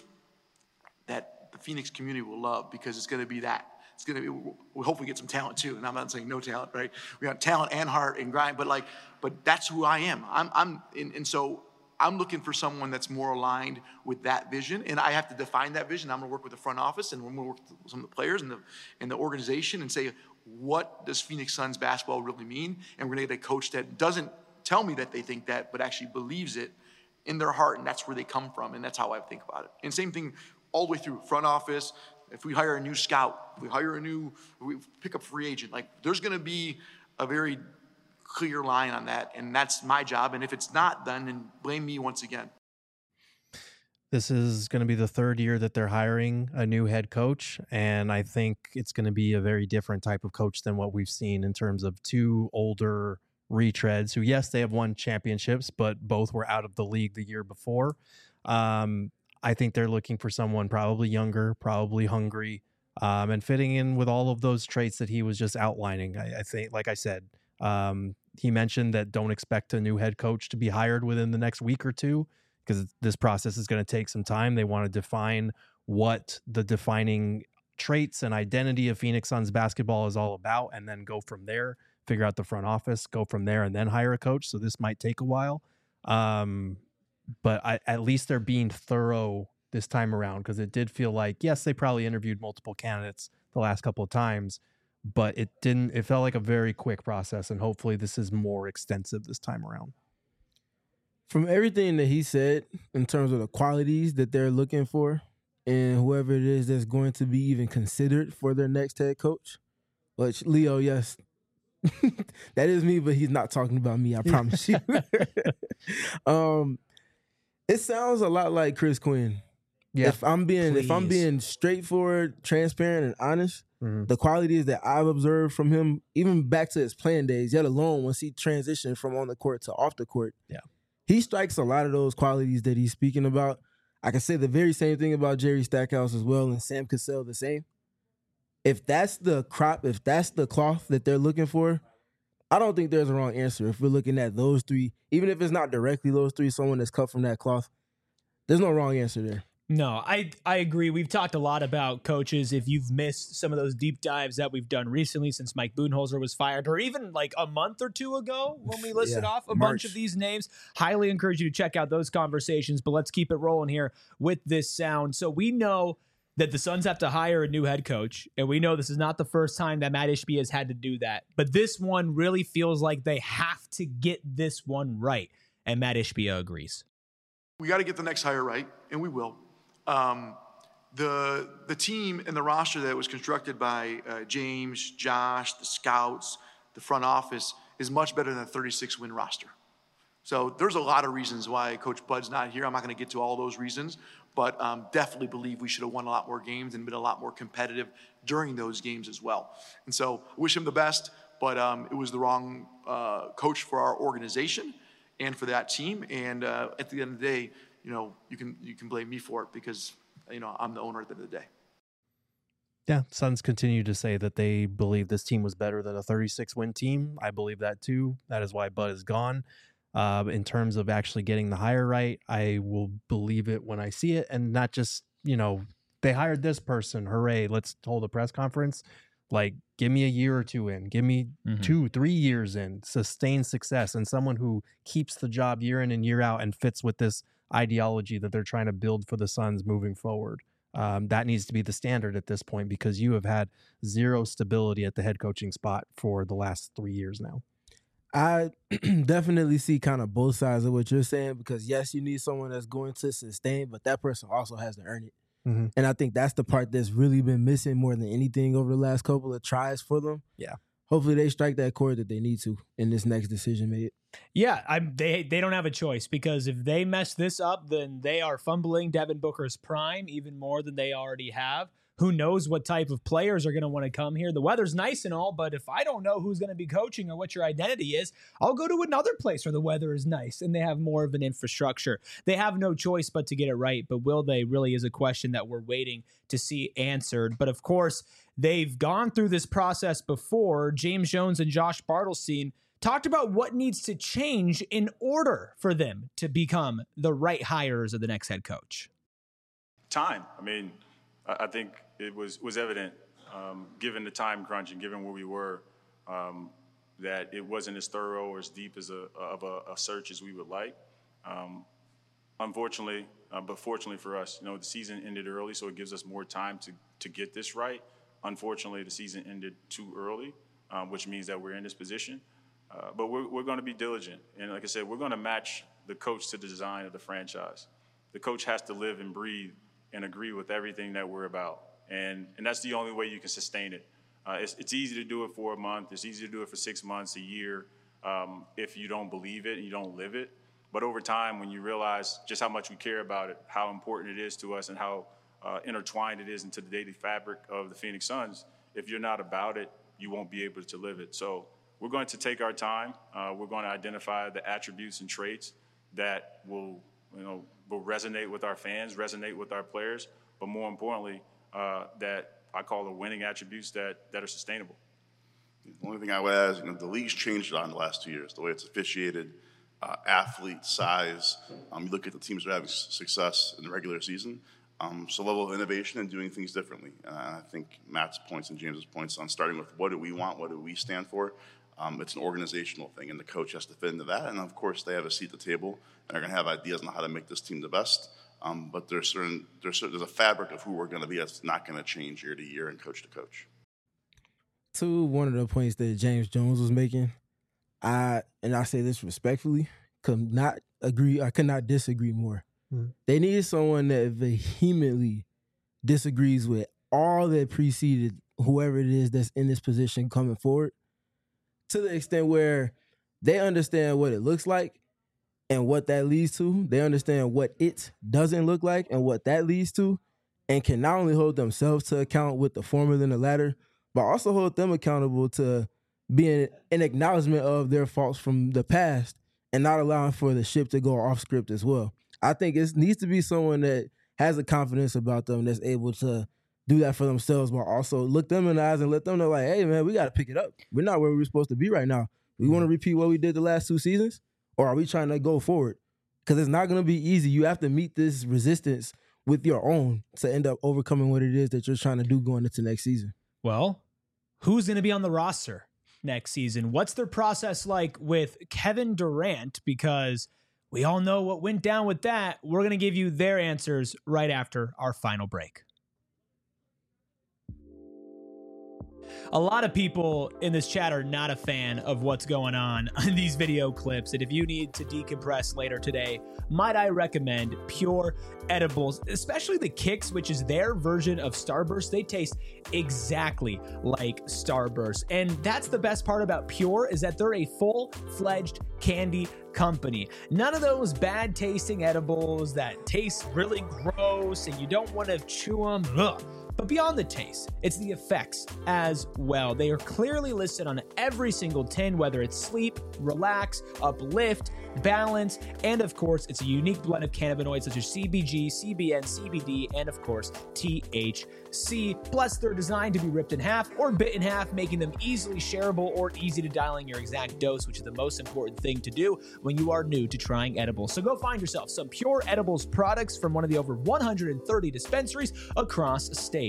that the Phoenix community will love, because it's going to be that. It's going to be, we'll hopefully get some talent too. And I'm not saying no talent, right? We got talent and heart and grind, but that's who I am. And so I'm looking for someone that's more aligned with that vision. And I have to define that vision. I'm going to work with the front office, and we're going to work with some of the players and the organization and say, what does Phoenix Suns basketball really mean? And we're going to get a coach that doesn't tell me that they think that, but actually believes it in their heart. And that's where they come from. And that's how I think about it. And same thing, all the way through front office. If we hire a new scout, we pick up free agent, like there's going to be a very clear line on that. And that's my job. And if it's not done, then blame me once again. This is going to be the third year that they're hiring a new head coach, and I think it's going to be a very different type of coach than what we've seen in terms of two older retreads who, yes, they have won championships, but both were out of the league the year before. I think they're looking for someone probably younger, probably hungry, and fitting in with all of those traits that he was just outlining. I think, like I said, he mentioned that don't expect a new head coach to be hired within the next week or two, because this process is going to take some time. They want to define what the defining traits and identity of Phoenix Suns basketball is all about, and then go from there, figure out the front office, go from there, and then hire a coach. So this might take a while. But at least they're being thorough this time around, because it did feel like, yes, they probably interviewed multiple candidates the last couple of times, but it felt like a very quick process, and hopefully this is more extensive this time around. From everything that he said in terms of the qualities that they're looking for and whoever it is that's going to be even considered for their next head coach, which, Leo, yes, that is me, but he's not talking about me, I promise you. It sounds a lot like Chris Quinn. Yeah, if I'm being straightforward, transparent, and honest, the qualities that I've observed from him, even back to his playing days, yet alone once he transitioned from on the court to off the court, he strikes a lot of those qualities that he's speaking about. I can say the very same thing about Jerry Stackhouse as well, and Sam Cassell the same. If that's the crop, if that's the cloth that they're looking for, I don't think there's a wrong answer. If we're looking at those three, even if it's not directly those three, someone that's cut from that cloth, there's no wrong answer there. No, I agree. We've talked a lot about coaches. If you've missed some of those deep dives that we've done recently since Mike Budenholzer was fired, or even like a month or two ago when we listed off a bunch of these names, highly encourage you to check out those conversations. But let's keep it rolling here with this sound. So we know that the Suns have to hire a new head coach, and we know this is not the first time that Matt Ishbia has had to do that. But this one really feels like they have to get this one right, and Matt Ishbia agrees. We got to get the next hire right, and we will. The team and the roster that was constructed by James, Josh, the scouts, the front office is much better than a 36-win roster. So there's a lot of reasons why Coach Bud's not here. I'm not going to get to all those reasons, but definitely believe we should have won a lot more games and been a lot more competitive during those games as well. And so I wish him the best, but it was the wrong coach for our organization and for that team. And at the end of the day, you can blame me for it because, I'm the owner at the end of the day. Yeah, Suns continue to say that they believe this team was better than a 36-win team. I believe that too. That is why Bud is gone. In terms of actually getting the hire right, I will believe it when I see it, and not just, they hired this person, hooray, let's hold a press conference. Like, give me a year or two in, give me 2-3 years in, sustained success, and someone who keeps the job year in and year out and fits with this ideology that they're trying to build for the Suns moving forward. That needs to be the standard at this point, because you have had zero stability at the head coaching spot for the last 3 years now. I definitely see kind of both sides of what you're saying, because yes, you need someone that's going to sustain, but that person also has to earn it. And I think that's the part that's really been missing more than anything over the last couple of tries for them. Yeah. Hopefully they strike that chord that they need to in this next decision made. Yeah, they don't have a choice, because if they mess this up, then they are fumbling Devin Booker's prime even more than they already have. Who knows what type of players are going to want to come here? The weather's nice and all, but if I don't know who's going to be coaching or what your identity is, I'll go to another place where the weather is nice and they have more of an infrastructure. They have no choice but to get it right, but will they really is a question that we're waiting to see answered. But of course, they've gone through this process before. James Jones and Josh Bartelstein talked about what needs to change in order for them to become the right hires of the next head coach. Time. I think it was evident, given the time crunch and given where we were, that it wasn't as thorough or as deep as a search as we would like. Unfortunately, but fortunately for us, the season ended early, so it gives us more time to get this right. Unfortunately, the season ended too early, which means that we're in this position. But we're going to be diligent. And like I said, we're going to match the coach to the design of the franchise. The coach has to live and breathe and agree with everything that we're about. And that's the only way you can sustain it. It's easy to do it for a month. It's easy to do it for 6 months, a year, if you don't believe it and you don't live it. But over time, when you realize just how much we care about it, how important it is to us, and how intertwined it is into the daily fabric of the Phoenix Suns, if you're not about it, you won't be able to live it. So we're going to take our time. We're going to identify the attributes and traits that will resonate with our fans, resonate with our players, but more importantly, that I call the winning attributes that are sustainable. The only thing I would add is, the league's changed on the last 2 years, the way it's officiated, athlete size. You look at the teams that are having success in the regular season. So level of innovation and doing things differently. I think Matt's points and James's points on starting with what do we want, what do we stand for. It's an organizational thing, and the coach has to fit into that. And of course, they have a seat at the table, and they're going to have ideas on how to make this team the best. But there's a fabric of who we're going to be that's not going to change year to year and coach to coach. To one of the points that James Jones was making, I say this respectfully, could not disagree more. They needed someone that vehemently disagrees with all that preceded whoever it is that's in this position coming forward, to the extent where they understand what it looks like and what that leads to. They understand what it doesn't look like and what that leads to, and can not only hold themselves to account with the former than the latter, but also hold them accountable to being an acknowledgement of their faults from the past and not allowing for the ship to go off script as well. I think it needs to be someone that has a confidence about them that's able to do that for themselves, but also look them in the eyes and let them know, like, hey, man, we got to pick it up. We're not where we're supposed to be right now. We want to repeat what we did the last 2 seasons, or are we trying to go forward? Because it's not going to be easy. You have to meet this resistance with your own to end up overcoming what it is that you're trying to do going into next season. Well, who's going to be on the roster next season? What's their process like with Kevin Durant? Because we all know what went down with that. We're going to give you their answers right after our final break. A lot of people in this chat are not a fan of what's going on in these video clips. And if you need to decompress later today, might I recommend Pure Edibles, especially the Kicks, which is their version of Starburst. They taste exactly like Starburst. And that's the best part about Pure, is that they're a full-fledged candy company. None of those bad tasting edibles that taste really gross and you don't want to chew them. Ugh. But beyond the taste, it's the effects as well. They are clearly listed on every single tin, whether it's sleep, relax, uplift, balance, and of course, it's a unique blend of cannabinoids such as CBG, CBN, CBD, and of course, THC. Plus, they're designed to be ripped in half or bit in half, making them easily shareable or easy to dial in your exact dose, which is the most important thing to do when you are new to trying edibles. So go find yourself some Pure Edibles products from one of the over 130 dispensaries across state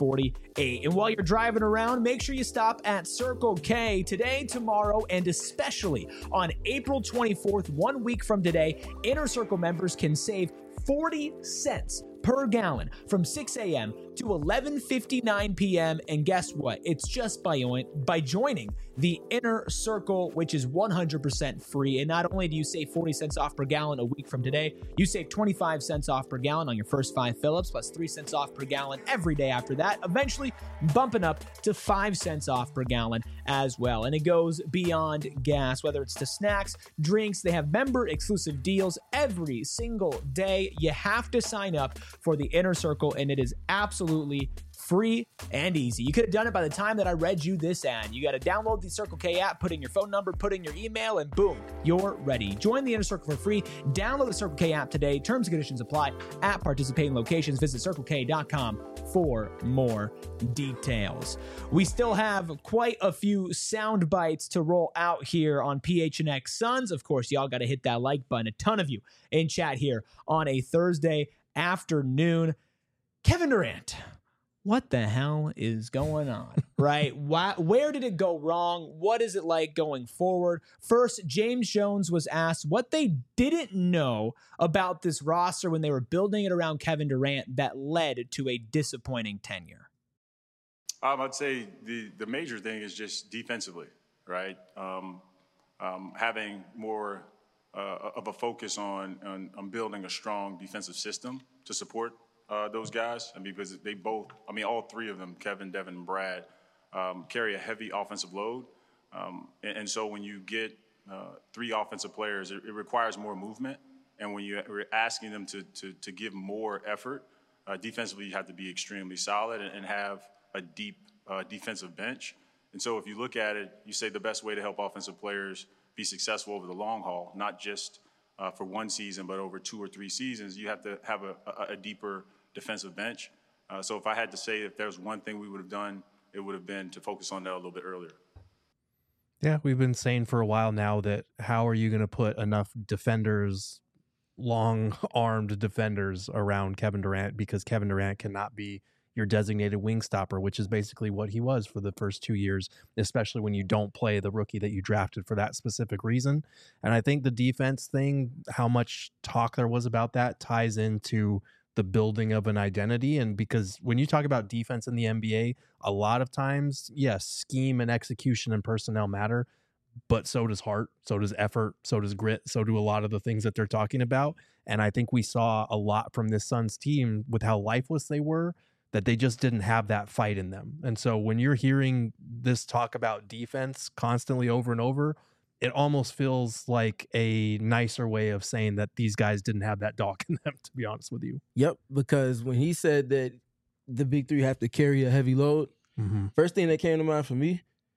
48. And while you're driving around, make sure you stop at Circle K today, tomorrow, and especially on April 24th, 1 week from today. Inner Circle members can save 40 cents per gallon from 6 a.m. to 11:59 p.m. And guess what? It's just by joining the Inner Circle, which is 100% free. And not only do you save 40 cents off per gallon a week from today, you save 25 cents off per gallon on your first 5 fill-ups, plus 3 cents off per gallon every day after that, eventually bumping up to 5 cents off per gallon as well. And it goes beyond gas, whether it's to snacks, drinks. They have member exclusive deals every single day. You have to sign up for the Inner Circle, and it is absolutely free and easy. You could have done it by the time that I read you this ad. You got to download the Circle K app, put in your phone number, put in your email, and boom, you're ready. Join the Inner Circle for free. Download the Circle K app today. Terms and conditions apply at participating locations. Visit CircleK.com for more details. We still have quite a few sound bites to roll out here on PHNX Suns. Of course, y'all got to hit that like button. A ton of you in chat here on a Thursday afternoon. Kevin Durant, what the hell is going on, right? Where did it go wrong? What is it like going forward? First, James Jones was asked what they didn't know about this roster when they were building it around Kevin Durant that led to a disappointing tenure. I'd say the major thing is just defensively, right? Having more of a focus on building a strong defensive system to support those guys, because they both, all three of them, Kevin, Devin, and Brad, carry a heavy offensive load. And so when you get three offensive players, it requires more movement. And when you're asking them to give more effort, defensively, you have to be extremely solid and have a deep defensive bench. And so if you look at it, you say the best way to help offensive players be successful over the long haul, not just for one season, but over 2 or 3 seasons, you have to have a deeper defensive bench. So if I had to say if there's one thing we would have done, it would have been to focus on that a little bit earlier. Yeah, we've been saying for a while now that how are you going to put enough defenders, long-armed defenders around Kevin Durant, because Kevin Durant cannot be your designated wing stopper, which is basically what he was for the first 2 years, especially when you don't play the rookie that you drafted for that specific reason. And I think the defense thing, how much talk there was about that, ties into the building of an identity. And because when you talk about defense in the NBA, a lot of times, yes, scheme and execution and personnel matter, but so does heart, so does effort, so does grit, so do a lot of the things that they're talking about. And I think we saw a lot from this Suns team with how lifeless they were, that they just didn't have that fight in them. And so when you're hearing this talk about defense constantly over and over, it almost feels like a nicer way of saying that these guys didn't have that dog in them, to be honest with you. Yep, because when he said that the big three have to carry a heavy load, first thing that came to mind for me,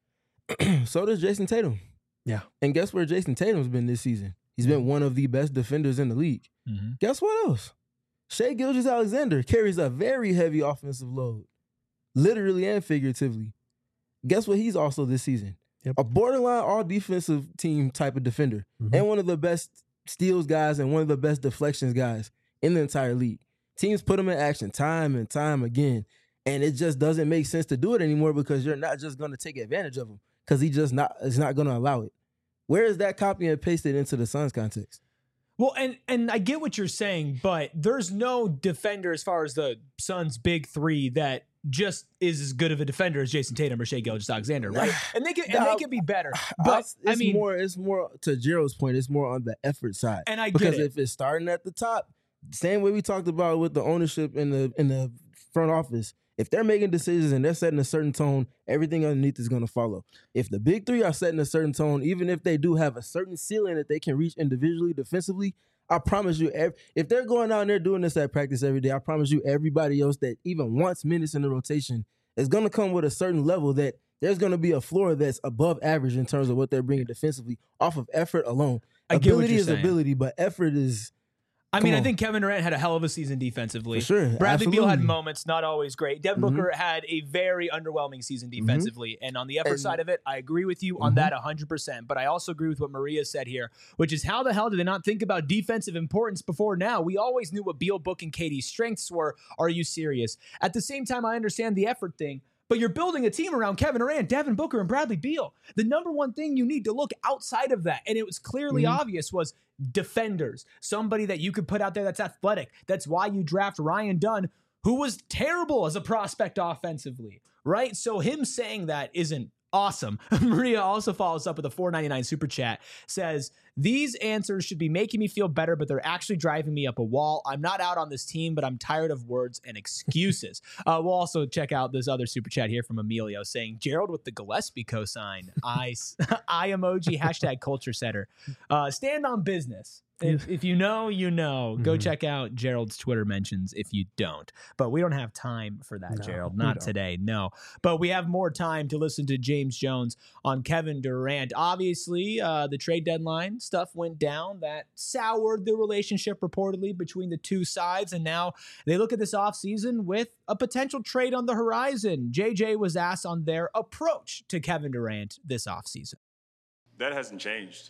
so does Jason Tatum. Yeah. And guess where Jason Tatum's been this season? He's been one of the best defenders in the league. Guess what else? Shai Gilgeous-Alexander carries a very heavy offensive load, literally and figuratively. Guess what he's also this season? Yep. A borderline all-defensive team type of defender, and one of the best steals guys and one of the best deflections guys in the entire league. Teams put him in action time and time again, and it just doesn't make sense to do it anymore because you're not just going to take advantage of him because is not going to allow it. Where is that copy and pasted into the Suns context? Well, and I get what you're saying, but there's no defender as far as the Suns' big three that just is as good of a defender as Jason Tatum or Shai Gilgeous-Alexander, right? And they can be better. But it's more to Gerald's point. It's more on the effort side, and I because get it. If it's starting at the top, same way we talked about with the ownership in the front office. If they're making decisions and they're setting a certain tone, everything underneath is going to follow. If the big three are setting a certain tone, even if they do have a certain ceiling that they can reach individually, defensively, I promise you, if they're going out and they're doing this at practice every day, I promise you everybody else that even wants minutes in the rotation is going to come with a certain level that there's going to be a floor that's above average in terms of what they're bringing defensively off of effort alone. Ability is ability, but effort is... I think Kevin Durant had a hell of a season defensively. For sure. Bradley Beal had moments, not always great. Devin Booker had a very underwhelming season defensively. And on the effort side of it, I agree with you on that 100%. But I also agree with what Maria said here, which is how the hell did they not think about defensive importance before now? We always knew what Beal, Book, and KD's strengths were. Are you serious? At the same time, I understand the effort thing. But you're building a team around Kevin Durant, Devin Booker, and Bradley Beal. The number one thing you need to look outside of that, and it was clearly obvious, was defenders. Somebody that you could put out there that's athletic. That's why you draft Ryan Dunn, who was terrible as a prospect offensively, right? So him saying that isn't awesome. Maria also follows up with a $4.99 super chat, says, these answers should be making me feel better, but they're actually driving me up a wall. I'm not out on this team, but I'm tired of words and excuses. We'll also check out this other super chat here from Emilio saying, Gerald with the Gillespie cosign, I emoji, hashtag culture setter. Stand on business. If you know, you know. Go check out Gerald's Twitter mentions if you don't. But we don't have time for that, Gerald. Not today, no. But we have more time to listen to James Jones on Kevin Durant. Obviously, the trade deadline stuff went down. That soured the relationship reportedly between the two sides. And now they look at this offseason with a potential trade on the horizon. JJ was asked on their approach to Kevin Durant this offseason. That hasn't changed.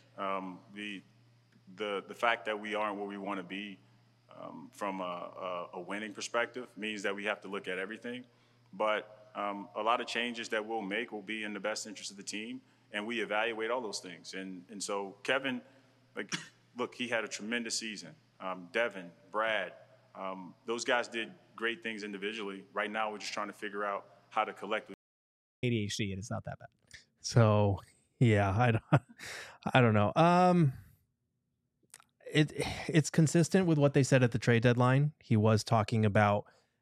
The fact that we aren't where we want to be from a winning perspective means that we have to look at everything. But a lot of changes that we'll make will be in the best interest of the team, and we evaluate all those things. And so Kevin, look, he had a tremendous season. Devin, Brad, those guys did great things individually. Right now, we're just trying to figure out how to collectively. ADHD, and it's not that bad. So, yeah, I don't know. it's consistent with what they said at the trade deadline. He was talking about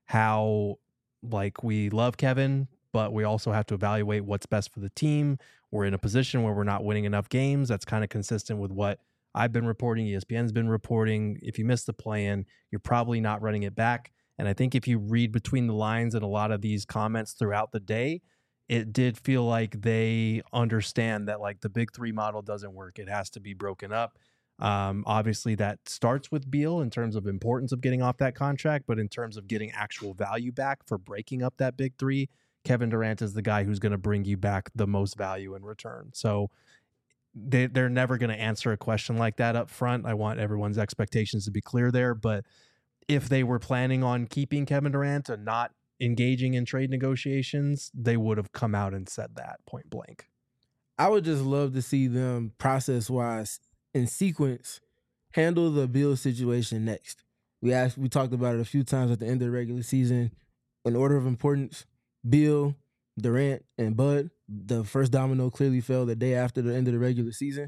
how, like, we love Kevin, but we also have to evaluate what's best for the team. We're in a position where we're not winning enough games. That's kind of consistent with what I've been reporting. ESPN's been reporting. If you miss the play-in, you're probably not running it back. And I think if you read between the lines in a lot of these comments throughout the day, it did feel like they understand that, like, the big three model doesn't work. It has to be broken up. Obviously that starts with Beal in terms of importance of getting off that contract, but in terms of getting actual value back for breaking up that big three, Kevin Durant is the guy who's going to bring you back the most value in return. So they're never going to answer a question like that up front. I want everyone's expectations to be clear there. But if they were planning on keeping Kevin Durant and not engaging in trade negotiations, they would have come out and said that point blank. I would just love to see them process-wise in sequence handle the Beal situation next. We talked about it a few times at the end of the regular season. In order of importance, Beal, Durant, and Bud. The first domino clearly fell the day after the end of the regular season.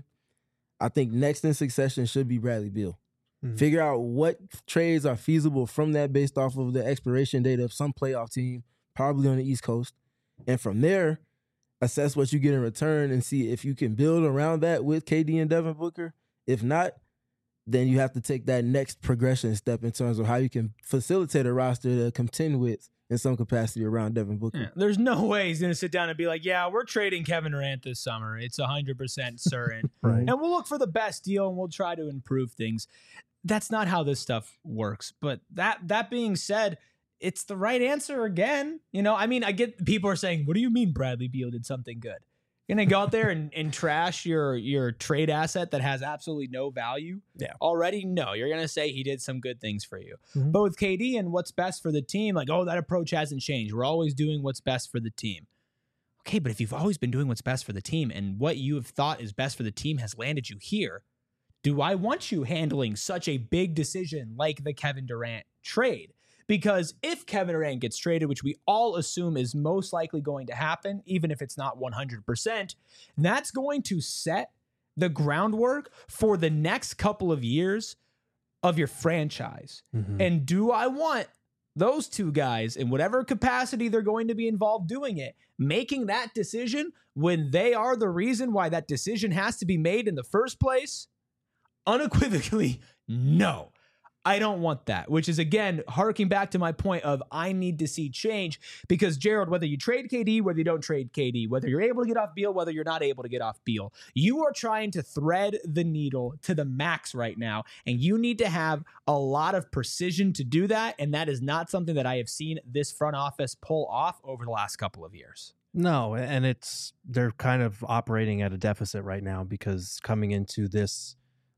I think next in succession should be Bradley Beal. Mm-hmm. Figure out what trades are feasible from that based off of the expiration date of some playoff team, probably on the East Coast. And from there, assess what you get in return and see if you can build around that with KD and Devin Booker. If not, then you have to take that next progression step in terms of how you can facilitate a roster to contend with in some capacity around Devin Booker. Yeah, there's no way he's going to sit down and be like, yeah, we're trading Kevin Durant this summer. It's 100% certain. Right. And we'll look for the best deal and we'll try to improve things. That's not how this stuff works. But that being said, it's the right answer again. You know, I mean, I get people are saying, what do you mean Bradley Beal did something good? You're going to go out there and trash your trade asset that has absolutely no value already? No, you're going to say he did some good things for you. Mm-hmm. But with KD and what's best for the team, like, oh, that approach hasn't changed. We're always doing what's best for the team. Okay, but if you've always been doing what's best for the team and what you have thought is best for the team has landed you here, do I want you handling such a big decision like the Kevin Durant trade? Because if Kevin Durant gets traded, which we all assume is most likely going to happen, even if it's not 100%, that's going to set the groundwork for the next couple of years of your franchise. Mm-hmm. And do I want those two guys, in whatever capacity they're going to be involved doing it, making that decision when they are the reason why that decision has to be made in the first place? Unequivocally, no. I don't want that, which is, again, harking back to my point of I need to see change because, Gerald, whether you trade KD, whether you don't trade KD, whether you're able to get off Beal, whether you're not able to get off Beal, you are trying to thread the needle to the max right now, and you need to have a lot of precision to do that, and that is not something that I have seen this front office pull off over the last couple of years. No, and they're kind of operating at a deficit right now because coming into this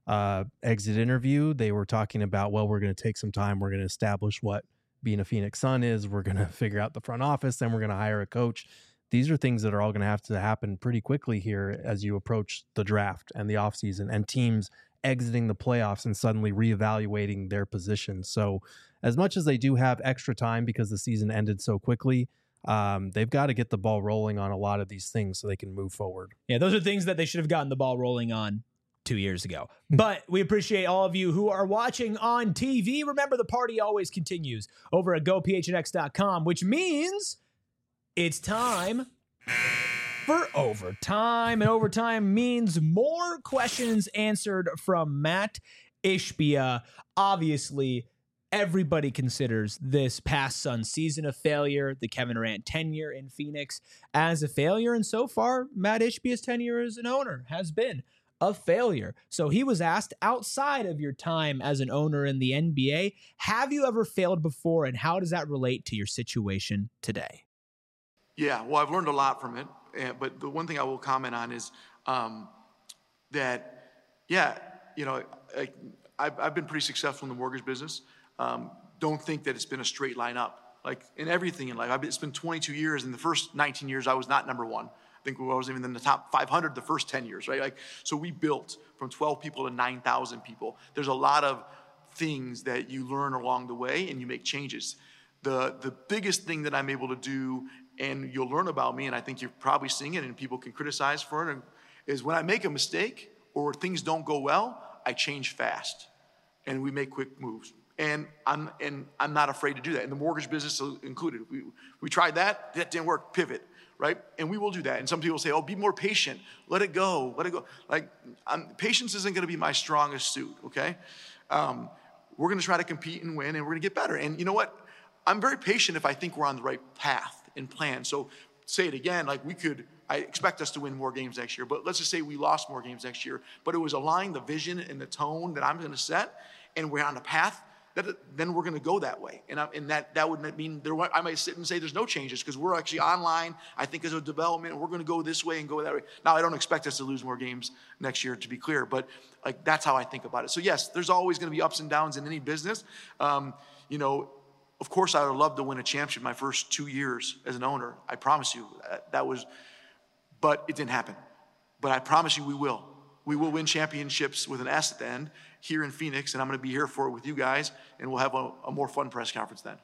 exit interview, they were talking about, well, we're going to take some time. We're going to establish what being a Phoenix Sun is. We're going to figure out the front office. Then we're going to hire a coach. These are things that are all going to happen pretty quickly here as you approach the draft and the offseason and teams exiting the playoffs and suddenly reevaluating their position. So as much as they do have extra time because the season ended so quickly, they've got to get the ball rolling on a lot of these things so they can move forward. Yeah, those are things that they should have gotten the ball rolling on 2 years ago. But we appreciate all of you who are watching on TV. Remember, the party always continues over at gophnx.com, which means it's time for overtime. And overtime means more questions answered from Matt Ishbia. Obviously, everybody considers this past Suns season a failure, the Kevin Durant tenure in Phoenix as a failure. And so far, Matt Ishbia's tenure as an owner has been a failure. So he was asked, outside of your time as an owner in the NBA, have you ever failed before, and how does that relate to your situation today? Yeah, well, I've learned a lot from it. But the one thing I will comment on is that, I've been pretty successful in the mortgage business. Don't think that it's been a straight line up. Like in everything in life, it's been 22 years. In the first 19 years, I was not number one. I think we wasn't even in the top 500 the first 10 years, right? So we built from 12 people to 9,000 people. There's a lot of things that you learn along the way and you make changes. The biggest thing that I'm able to do, and you'll learn about me, and I think you're probably seeing it and people can criticize for it, is when I make a mistake or things don't go well, I change fast. and we make quick moves. And I'm not afraid to do that. And the mortgage business included. We tried that. That didn't work. Pivot, right? And we will do that. And some people say, oh, be more patient. Let it go. Let it go. Like, patience isn't going to be my strongest suit, okay? We're going to try to compete and win, and we're going to get better. And you know what? I'm very patient if I think we're on the right path and plan. So say it again, like I expect us to win more games next year, but let's just say we lost more games next year, but it was aligning the vision and the tone that I'm going to set, and we're on a path, then we're going to go that way. And that would mean I might sit and say there's no changes because we're actually online. I think as a development, we're going to go this way and go that way. Now, I don't expect us to lose more games next year, to be clear, but like that's how I think about it. So yes, there's always going to be ups and downs in any business. Of course, I would love to win a championship my first 2 years as an owner. I promise you but it didn't happen. But I promise you we will. We will win championships with an S at the end here in Phoenix, and I'm going to be here for it with you guys, and we'll have a more fun press conference then.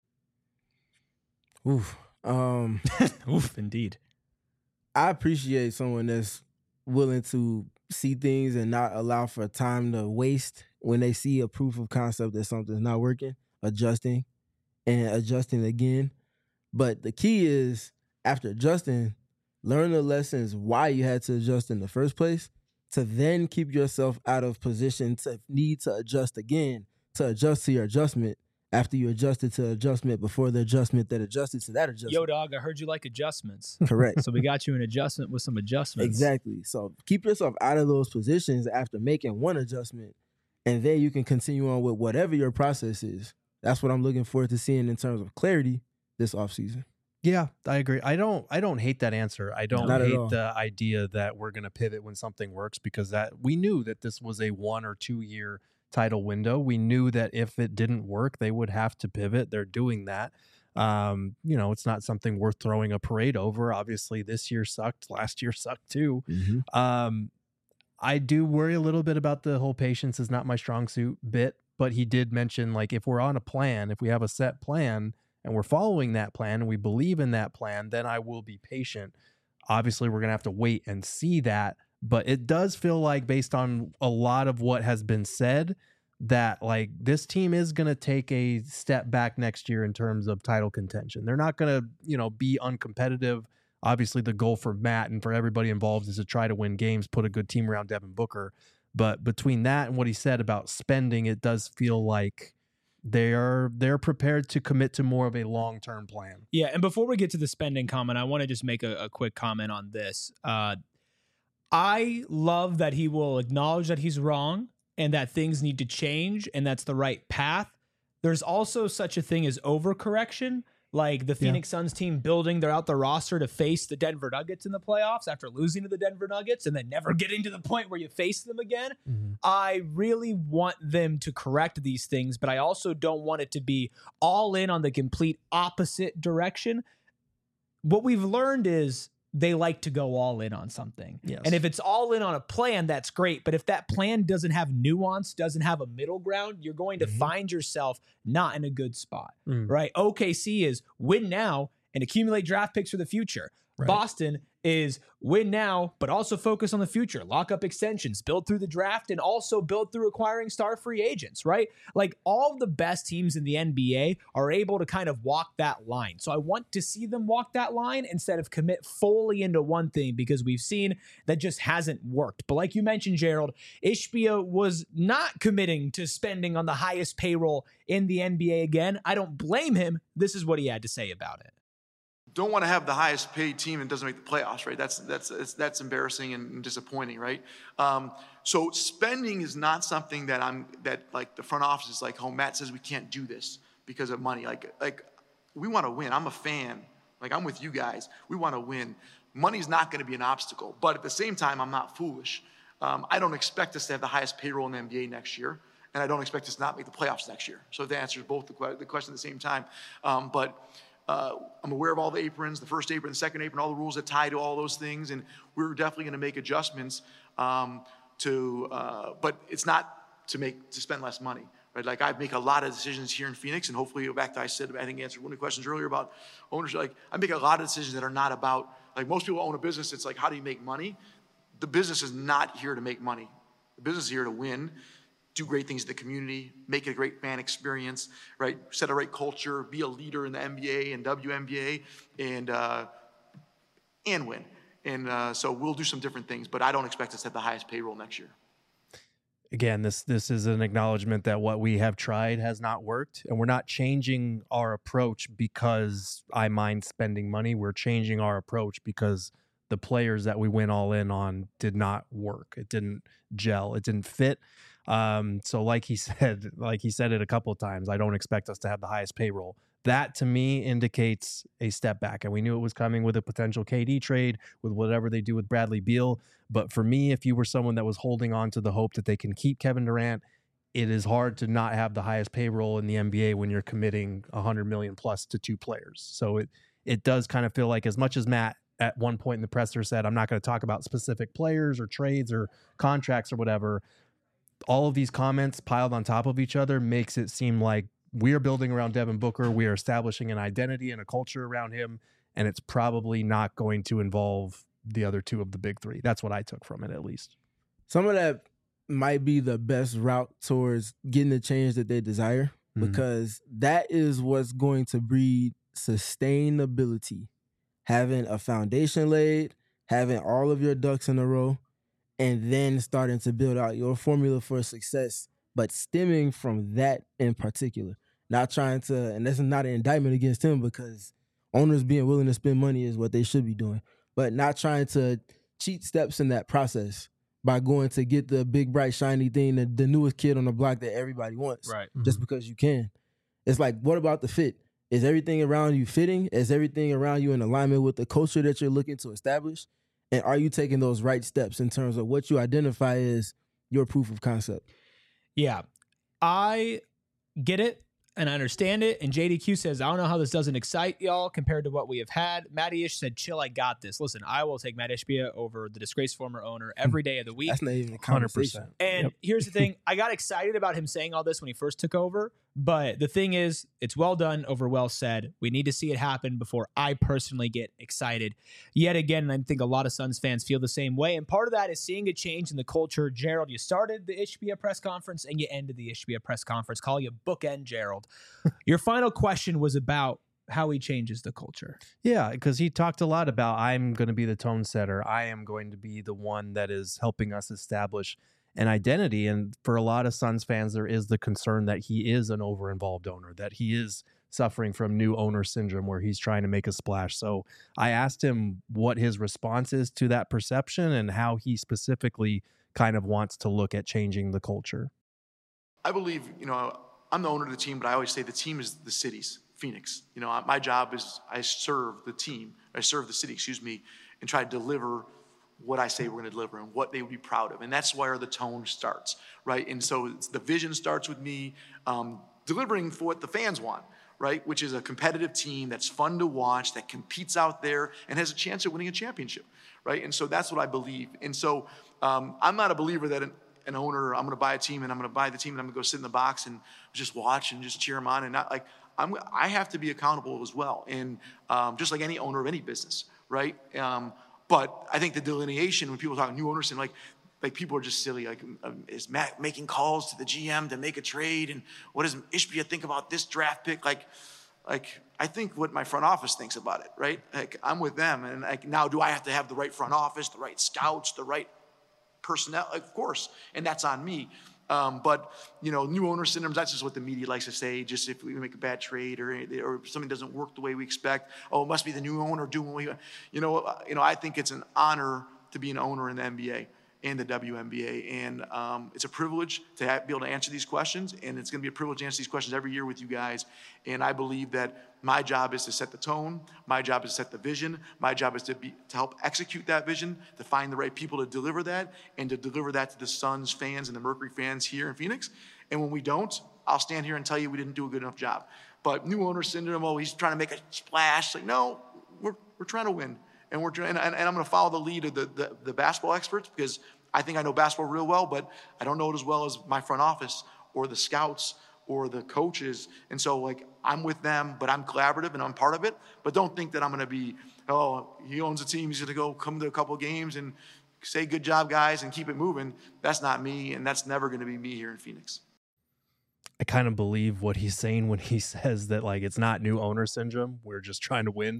Oof. Oof, indeed. I appreciate someone that's willing to see things and not allow for time to waste when they see a proof of concept that something's not working, adjusting and adjusting again. But the key is, after adjusting, learn the lessons why you had to adjust in the first place, to then keep yourself out of position to need to adjust again, to adjust to your adjustment after you adjusted to adjustment before the adjustment that adjusted to that adjustment. Yo, dog, I heard you like adjustments. Correct. So we got you an adjustment with some adjustments. Exactly. So keep yourself out of those positions after making one adjustment, and then you can continue on with whatever your process is. That's what I'm looking forward to seeing in terms of clarity this offseason. Yeah, I agree. I don't hate that answer. I don't Not at hate all. the idea that we're going to pivot when something works, because that we knew that this was a 1 or 2 year title window. We knew that if it didn't work, they would have to pivot. They're doing that. It's not something worth throwing a parade over. Obviously, this year sucked. Last year sucked too. Mm-hmm. I do worry a little bit about the whole patience is not my strong suit bit, but he did mention, like, if we're on a plan, if we have a set plan and we're following that plan and we believe in that plan, then I will be patient. Obviously, we're going to have to wait and see that. But it does feel like, based on a lot of what has been said, that like this team is going to take a step back next year in terms of title contention. They're not going to, be uncompetitive. Obviously, the goal for Matt and for everybody involved is to try to win games, put a good team around Devin Booker. But between that and what he said about spending, it does feel like they're prepared to commit to more of a long-term plan. Yeah, and before we get to the spending comment, I want to just make a quick comment on this. I love that he will acknowledge that he's wrong and that things need to change and that's the right path. There's also such a thing as overcorrection, like the Phoenix Suns team building their roster to face the Denver Nuggets in the playoffs after losing to the Denver Nuggets and then never getting to the point where you face them again. Mm-hmm. I really want them to correct these things, but I also don't want it to be all in on the complete opposite direction. What we've learned is they like to go all in on something. Yes. And if it's all in on a plan, that's great. But if that plan doesn't have nuance, doesn't have a middle ground, you're going to find yourself not in a good spot, right? OKC is win now and accumulate draft picks for the future. Right. Boston is win now, but also focus on the future. Lock up extensions, build through the draft, and also build through acquiring star free agents, right? Like all of the best teams in the NBA are able to kind of walk that line. So I want to see them walk that line instead of commit fully into one thing, because we've seen that just hasn't worked. But like you mentioned, Gerald, Ishbia was not committing to spending on the highest payroll in the NBA again. I don't blame him. This is what he had to say about it. Don't want to have the highest paid team and doesn't make the playoffs, right? That's embarrassing and disappointing, right? So spending is not something that like the front office is like, oh, Matt says we can't do this because of money. Like we want to win. I'm a fan. Like I'm with you guys. We want to win. Money's not going to be an obstacle, but at the same time, I'm not foolish. I don't expect us to have the highest payroll in the NBA next year, and I don't expect us to not make the playoffs next year. So the answer is both the question at the same time. I'm aware of all the aprons, the first apron, the second apron, all the rules that tie to all those things, and we're definitely going to make adjustments but it's not to spend less money, right? Like I make a lot of decisions here in Phoenix, and hopefully, back to I think answered one of the questions earlier about ownership. Like I make a lot of decisions that are not about, like most people own a business, it's like, how do you make money? The business is not here to make money. The business is here to win, do great things in the community, make it a great fan experience, right? Set a right culture, be a leader in the NBA and WNBA, and win. And so we'll do some different things, but I don't expect us to have the highest payroll next year. Again, this is an acknowledgement that what we have tried has not worked, and we're not changing our approach because I mind spending money. We're changing our approach because the players that we went all in on did not work. It didn't gel. It didn't fit. So like he said it a couple of times, I don't expect us to have the highest payroll. That to me indicates a step back. And we knew it was coming with a potential KD trade, with whatever they do with Bradley Beal. But for me, if you were someone that was holding on to the hope that they can keep Kevin Durant, it is hard to not have the highest payroll in the NBA when you're committing $100 million plus to two players. So it does kind of feel like, as much as Matt at one point in the presser said, I'm not going to talk about specific players or trades or contracts or whatever, all of these comments piled on top of each other makes it seem like we are building around Devin Booker. We are establishing an identity and a culture around him, and it's probably not going to involve the other two of the big three. That's what I took from it, at least. Some of that might be the best route towards getting the change that they desire, because that is what's going to breed sustainability. Having a foundation laid, having all of your ducks in a row, and then starting to build out your formula for success, but stemming from that in particular. Not trying to, and this is not an indictment against him, because owners being willing to spend money is what they should be doing, but not trying to cheat steps in that process by going to get the big, bright, shiny thing, the newest kid on the block that everybody wants, Right. just because you can. It's like, what about the fit? Is everything around you fitting? Is everything around you in alignment with the culture that you're looking to establish? And are you taking those right steps in terms of what you identify as your proof of concept? Yeah, I get it and I understand it. And JDQ says, I don't know how this doesn't excite y'all compared to what we have had. Matty Ish said, chill, I got this. Listen, I will take Matt Ishbia over the disgraced former owner every day of the week. That's not even a conversation. 100%. And here's the thing. I got excited about him saying all this when he first took over. But the thing is, it's well done over well said. We need to see it happen before I personally get excited. Yet again, and I think a lot of Suns fans feel the same way. And part of that is seeing a change in the culture. Gerald, you started the Ishbia press conference and you ended the Ishbia press conference. Call you bookend, Gerald. Your final question was about how he changes the culture. Yeah, because he talked a lot about, I'm going to be the tone setter. I am going to be the one that is helping us establish an identity. And for a lot of Suns fans, there is the concern that he is an over-involved owner, that he is suffering from new owner syndrome where he's trying to make a splash. So I asked him what his response is to that perception and how he specifically kind of wants to look at changing the culture. I believe, I'm the owner of the team, but I always say the team is the city's, Phoenix. My job is I serve the city, and try to deliver what I say we're going to deliver and what they would be proud of. And that's where the tone starts, right? And so the vision starts with me delivering for what the fans want, right? Which is a competitive team that's fun to watch, that competes out there and has a chance of winning a championship, right? And so that's what I believe. And so I'm not a believer that an owner, I'm going to buy a team and I'm going to buy the team and I'm going to go sit in the box and just watch and just cheer them on, and not like, I have to be accountable as well. And just like any owner of any business, right? But I think the delineation, when people talk new owners, and like people are just silly. Like, is Matt making calls to the GM to make a trade? And what does Ishbia think about this draft pick? Like I think what my front office thinks about it, right? Like, I'm with them, and now do I have to have the right front office, the right scouts, the right personnel? Of course, and that's on me. But new owner syndrome, that's just what the media likes to say. Just if we make a bad trade or something doesn't work the way we expect, it must be the new owner doing what I think it's an honor to be an owner in the NBA and the WNBA. And it's a privilege to be able to answer these questions. And it's going to be a privilege to answer these questions every year with you guys. And I believe that my job is to set the tone. My job is to set the vision. My job is to help execute that vision, to find the right people to deliver that, and to deliver that to the Suns fans and the Mercury fans here in Phoenix. And when we don't, I'll stand here and tell you we didn't do a good enough job. But new owner syndrome, he's trying to make a splash. Like, no, we're trying to win. And and I'm going to follow the lead of the basketball experts, because I think I know basketball real well, but I don't know it as well as my front office or the scouts or the coaches. And so, I'm with them, but I'm collaborative and I'm part of it. But don't think that I'm going to be, he owns a team, he's going to come to a couple of games and say good job, guys, and keep it moving. That's not me, and that's never going to be me here in Phoenix. I kind of believe what he's saying when he says that, like, it's not new owner syndrome. We're just trying to win.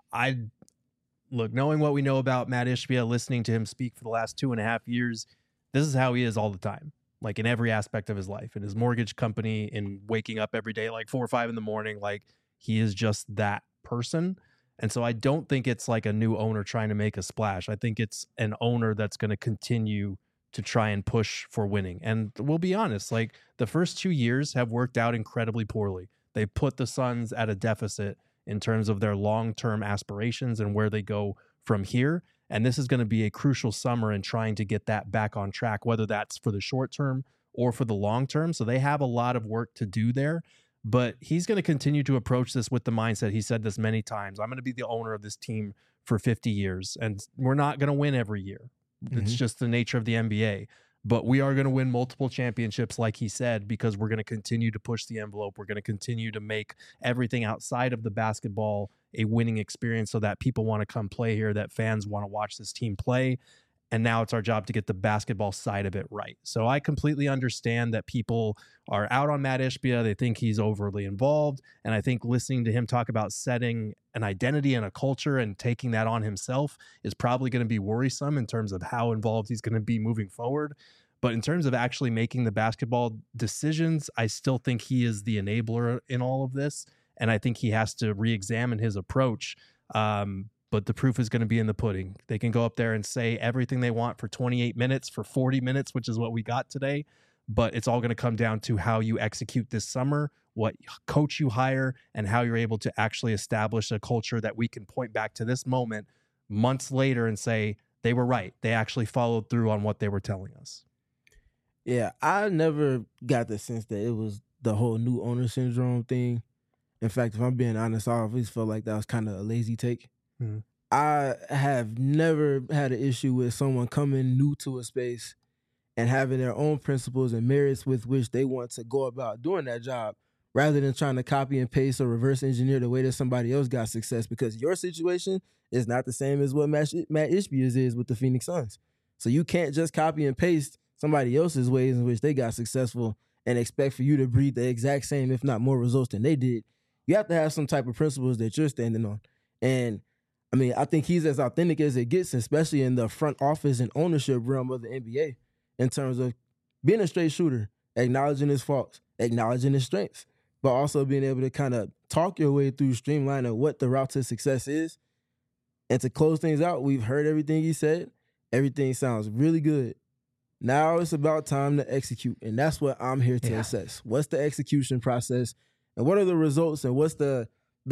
Look, knowing what we know about Matt Ishbia, listening to him speak for the last 2.5 years, this is how he is all the time, like in every aspect of his life, in his mortgage company, in waking up every day like 4 or 5 in the morning. Like, he is just that person. And so I don't think it's like a new owner trying to make a splash. I think it's an owner that's going to continue to try and push for winning. And we'll be honest, like, the first 2 years have worked out incredibly poorly. They put the Suns at a deficit in terms of their long-term aspirations and where they go from here. And this is going to be a crucial summer in trying to get that back on track, whether that's for the short term or for the long term. So they have a lot of work to do there, but he's going to continue to approach this with the mindset. He said this many times: I'm going to be the owner of this team for 50 years, and we're not going to win every year. It's just the nature of the NBA. But we are going to win multiple championships, like he said, because we're going to continue to push the envelope. We're going to continue to make everything outside of the basketball a winning experience so that people want to come play here, that fans want to watch this team play. And now it's our job to get the basketball side of it right. So I completely understand that people are out on Matt Ishbia. They think he's overly involved. And I think listening to him talk about setting an identity and a culture and taking that on himself is probably going to be worrisome in terms of how involved he's going to be moving forward. But in terms of actually making the basketball decisions, I still think he is the enabler in all of this. And I think he has to re-examine his approach. But the proof is going to be in the pudding. They can go up there and say everything they want for 28 minutes, for 40 minutes, which is what we got today. But it's all going to come down to how you execute this summer, what coach you hire, and how you're able to actually establish a culture that we can point back to this moment months later and say they were right. They actually followed through on what they were telling us. Yeah, I never got the sense that it was the whole new owner syndrome thing. In fact, if I'm being honest, I always felt like that was kind of a lazy take. I have never had an issue with someone coming new to a space and having their own principles and merits with which they want to go about doing that job, rather than trying to copy and paste or reverse engineer the way that somebody else got success, because your situation is not the same as what Matt Ishbia's is with the Phoenix Suns. So you can't just copy and paste somebody else's ways in which they got successful and expect for you to breed the exact same, if not more, results than they did. You have to have some type of principles that you're standing on. And I mean, I think he's as authentic as it gets, especially in the front office and ownership realm of the NBA, in terms of being a straight shooter, acknowledging his faults, acknowledging his strengths, but also being able to kind of talk your way through streamlining what the route to success is. And to close things out, we've heard everything he said. Everything sounds really good. Now it's about time to execute, and that's what I'm here to assess. What's the execution process, and what are the results, and what's the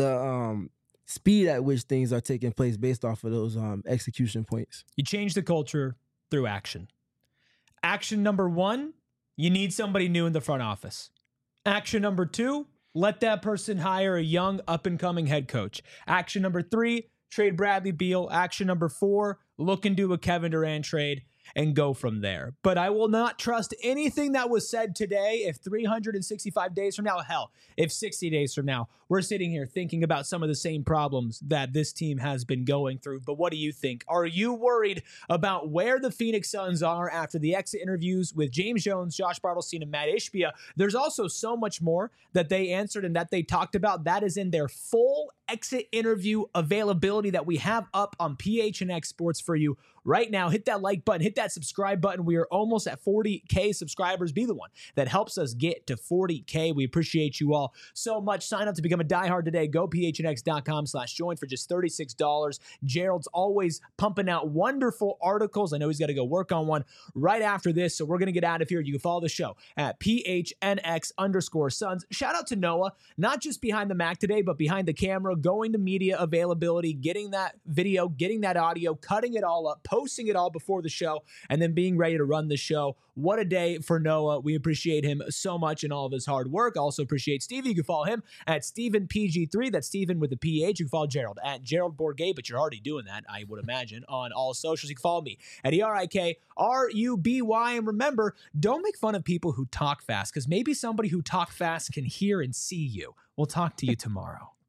speed at which things are taking place based off of those execution points? You change the culture through action. Action number 1, you need somebody new in the front office. Action number 2, let that person hire a young up-and-coming head coach. Action number 3, trade Bradley Beal. Action number 4, look into a Kevin Durant trade and go from there. But I will not trust anything that was said today if 365 days from now, hell, if 60 days from now, we're sitting here thinking about some of the same problems that this team has been going through. But what do you think? Are you worried about where the Phoenix Suns are after the exit interviews with James Jones, Josh Bartelstein, and Matt Ishbia? There's also so much more that they answered and that they talked about. That is in their full exit interview availability that we have up on PHNX Sports for you right now. Hit that like button, hit that subscribe button. We are almost at 40K subscribers. Be the one that helps us get to 40K. We appreciate you all so much. Sign up to become a diehard today. Go phnx.com/join for just $36. Gerald's always pumping out wonderful articles. I know he's got to go work on one right after this, so we're going to get out of here. You can follow the show at PHNX_Suns. Shout out to Noah, not just behind the Mac today, but behind the camera, going to media availability, getting that video, getting that audio, cutting it all up, posting it all before the show, and then being ready to run the show. What a day for Noah. We appreciate him so much and all of his hard work. Also appreciate Stevie. You can follow him at StephenPG3. That's Stephen with a PH. You can follow Gerald at Gerald Bourget, but you're already doing that, I would imagine, on all socials. You can follow me at ERIKRUBY. And remember, don't make fun of people who talk fast, because maybe somebody who talk fast can hear and see you. We'll talk to you tomorrow.